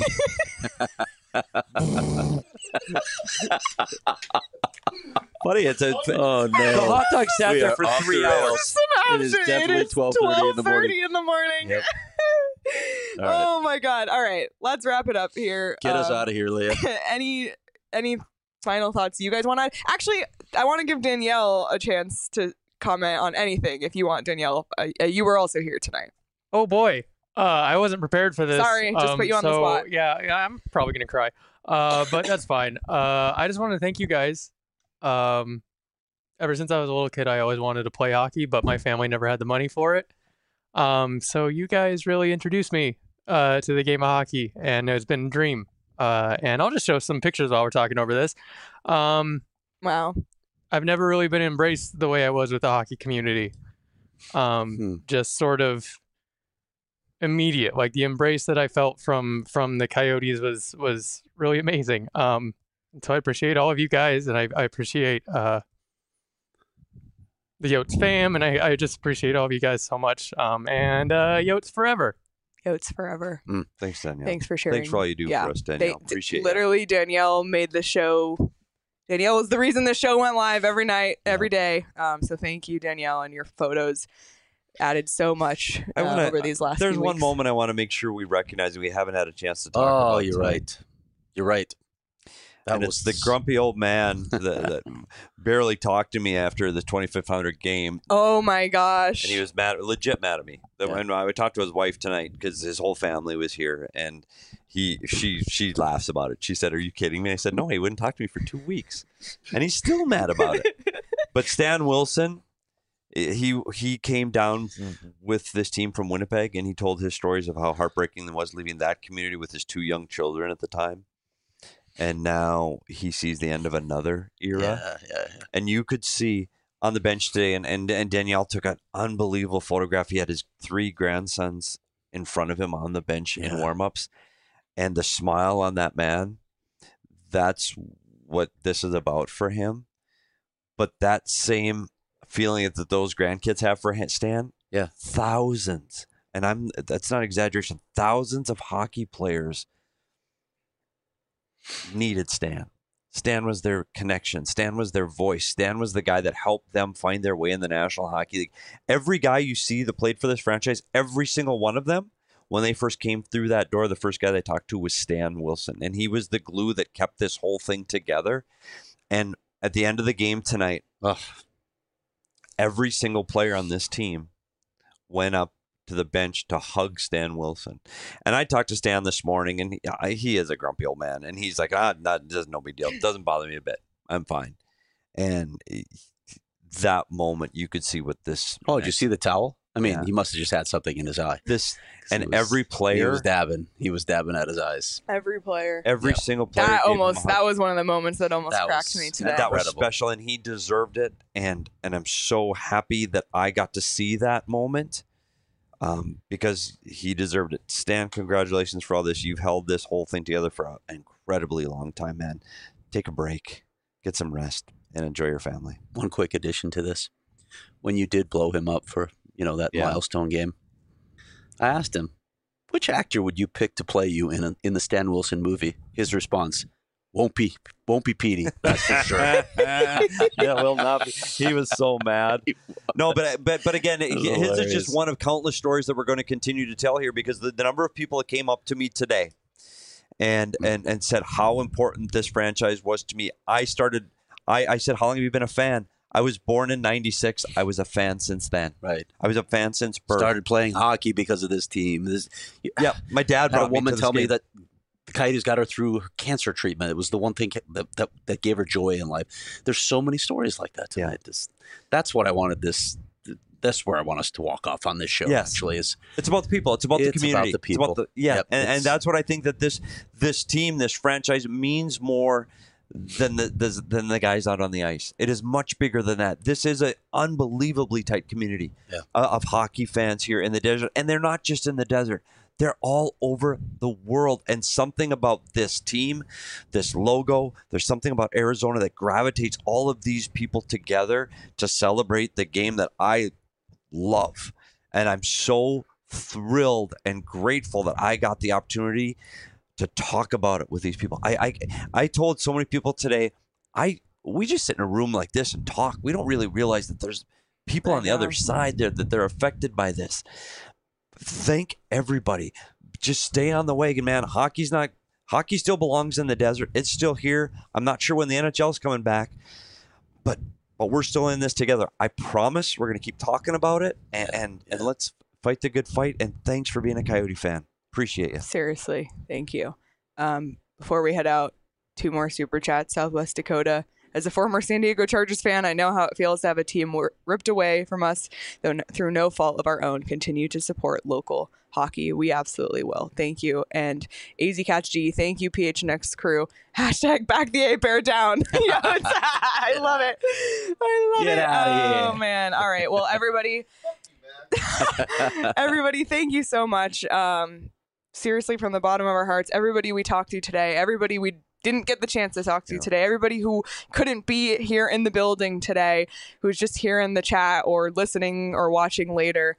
Buddy, it's a. Oh The no! hot dog sat We there are for off three the rails. hours. It is It definitely is twelve thirty in the morning. twelve thirty in the morning. Yep. All right. Oh my god! All right, let's wrap it up here. Get us Um, out of here, Leah. any any final thoughts you guys want to? Actually, I want to give Danielle a chance to comment on anything if you want. Danielle, uh, uh, you were also here tonight. Oh boy, uh, I wasn't prepared for this. Sorry, just Um, put you on the so, spot. Yeah, yeah, I'm probably gonna cry, uh, but that's fine. Uh, I just want to thank you guys. Um, ever since I was a little kid, I always wanted to play hockey, but my family never had the money for it. Um, so you guys really introduced me uh, to the game of hockey, and it's been a dream. Uh, and I'll just show some pictures while we're talking over this. Um, Wow. I've never really been embraced the way I was with the hockey community. Um, Hmm. Just sort of immediate, like the embrace that I felt from from the Coyotes was was really amazing. Um, so I appreciate all of you guys, and I, I appreciate uh, the Yotes fam, and I, I just appreciate all of you guys so much. Um, and uh, Yotes forever. Yotes forever. Thanks, Danielle. Thanks for sharing. Thanks for all you do Yeah, for us, They- Danielle. Appreciate it. literally, Danielle made the show. Danielle was the reason the show went live every night, every day. Um, so thank you, Danielle, and your photos added so much I uh, wanna- over these last. There's few one weeks. moment I want to make sure we recognize and we haven't had a chance to talk Oh, about. you're tonight. right. You're right. That and was it's the grumpy old man that, that barely talked to me after the twenty-fifth hundred game, Oh my gosh! and he was mad, legit mad at me. That Yeah. when I would talk to his wife tonight because his whole family was here, and he, she, she laughs about it. She said, "Are you kidding me?" I said, "No, he wouldn't talk to me for two weeks, and he's still mad about it." But Stan Wilson, he he came down with this team from Winnipeg, and he told his stories of how heartbreaking it was leaving that community with his two young children at the time. And now he sees the end of another era. Yeah, yeah, yeah. And you could see on the bench today, and, and, and Danielle took an unbelievable photograph. He had his three grandsons in front of him on the bench in Yeah. warm-ups. And the smile on that man, that's what this is about for him. But that same feeling that those grandkids have for Stan, Yeah. thousands, and I'm that's not exaggeration, thousands of hockey players needed Stan. Stan was their connection. Stan was their voice. Stan was the guy that helped them find their way in the National Hockey League. Every guy you see that played for this franchise, every single one of them, when they first came through that door, the first guy they talked to was Stan Wilson. And he was the glue that kept this whole thing together. And at the end of the game tonight, Ugh. every single player on this team went up to the bench to hug Stan Wilson. And I talked to Stan this morning, and he, I- he is a grumpy old man. And he's like, ah, not, doesn't no big deal. It doesn't bother me a bit. I'm fine. And he- that moment, you could see what this. Oh, did you see the towel I mean, Yeah. he must have just had something in his eye. This He and was- every He player, was dabbing. He was dabbing at his eyes. Every player. every Yeah. single player. That gave him a almost hug. that was one of the moments that almost That cracked was- me today. that was Incredible. special, and he deserved it. And and I'm so happy that I got to see that moment, um, because he deserved it. Stan, congratulations for all this. You've held this whole thing together for an incredibly long time, man. Take a break, get some rest, and enjoy your family. One quick addition to this: when you did blow him up for you know that Yeah. milestone game, I asked him, "Which actor would you pick to play you in a, in the Stan Wilson movie?" His response: "Won't be, won't be Petey. That's for sure." Yeah, will not be. He was so mad. No, but but but again, was his is hilarious. just one of countless stories that we're going to continue to tell here, because the, the number of people that came up to me today and and and said how important this franchise was to me. I started. I I said, "How long have you been a fan?" I was born in ninety-six. I was a fan since then. Right. I was a fan since birth. Started playing hockey because of this team. This, Yeah, my dad had a brought me woman to tell this me game. that the Coyotes got her through her cancer treatment. It was the one thing that that, that gave her joy in life. There's so many stories like that tonight. This, that's what I wanted this. That's where I want us to walk off on this show. Yes. Actually, is It's about the people. It's about the It's about community. the people. It's about the, yeah, Yep, and, and it's- that's what I think that this this team, this franchise, means more than the, the than the guys out on the ice. It is much bigger than that. This is an unbelievably tight community Yeah. uh, of hockey fans here in the desert, and they're not just in the desert. They're all over the world. And something about this team, this logo, there's something about Arizona that gravitates all of these people together to celebrate the game that I love. And I'm so thrilled and grateful that I got the opportunity to talk about it with these people. I I, I told so many people today, I we just sit in a room like this and talk. We don't really realize that there's people I on the other know. side there that they're affected by this. Thank everybody. Just stay on the wagon, man. Hockey's not hockey still belongs in the desert. It's still here. I'm not sure when the N H L is coming back, but but we're still in this together. I promise we're going to keep talking about it, and and, and let's fight the good fight. And thanks for being a Coyote fan. Appreciate you. Seriously, thank you. Um, before we head out, two more super chats. Southwest Dakota. As a former San Diego Chargers fan, I know how it feels to have a team wor- ripped away from us though n- through no fault of our own. Continue to support local hockey. We absolutely will. Thank you. And A Z Catch G, thank you, P H N X crew. Hashtag back the A Bear down. Yo, it's- I love it. I love Get it. outta Oh, here. man. All right. Well, everybody, everybody, thank you so much. Um, seriously, from the bottom of our hearts, everybody we talked to today, everybody we didn't get the chance to talk to Yeah. today, everybody who couldn't be here in the building today, who's just here in the chat or listening or watching later,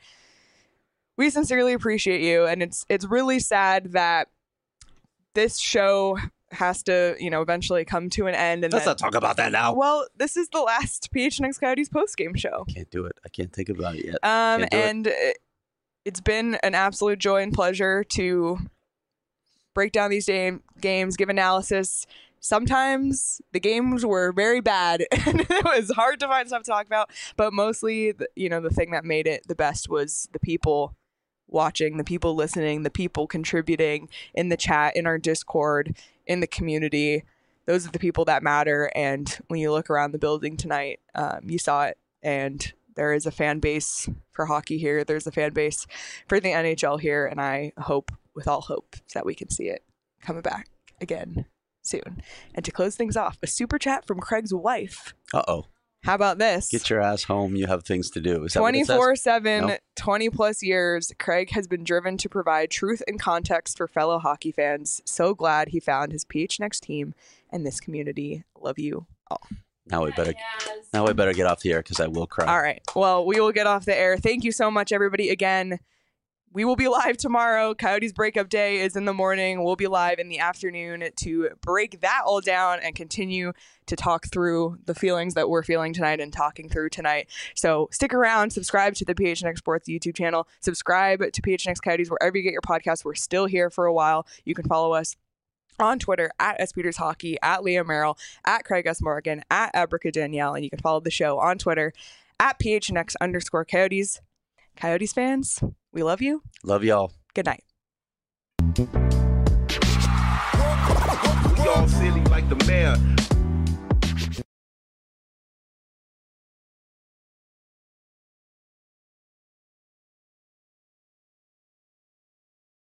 we sincerely appreciate you. And it's it's really sad that this show has to, you know, eventually come to an end. And let's then, not talk about that now. well, this is the last P H N X Coyotes post-game show. Can't do it. I can't think about it yet. Um, Can't do it. and it, it's been an absolute joy and pleasure to break down these game, games, give analysis. Sometimes the games were very bad and it was hard to find stuff to talk about, but mostly, the, you know, the thing that made it the best was the people watching, the people listening, the people contributing in the chat, in our Discord, in the community. Those are the people that matter. And when you look around the building tonight, um, you saw it. And there is a fan base for hockey here. There's a fan base for the N H L here. And I hope, with all hope, that we can see it coming back again soon. And to close things off, a super chat from Craig's wife. Uh oh. How about this? Get your ass home. You have things to do. Is that what it says? twenty-four seven, No? twenty plus years, Craig has been driven to provide truth and context for fellow hockey fans. So glad he found his P H N X team and this community. Love you all. Now we better. Now we better get off the air because I will cry. All right. Well, we will get off the air. Thank you so much, everybody. Again, we will be live tomorrow. Coyotes breakup day is in the morning. We'll be live in the afternoon to break that all down and continue to talk through the feelings that we're feeling tonight and talking through tonight. So stick around, subscribe to the P H N X Sports YouTube channel, subscribe to P H N X Coyotes wherever you get your podcasts. We're still here for a while. You can follow us on Twitter at S Peters Hockey, at Leah Merrill, at Craig S. Morgan, at Abrica Danielle, and you can follow the show on Twitter at P H N X underscore Coyotes. Coyotes fans, we love you. Love y'all. Good night. We all silly like the mayor.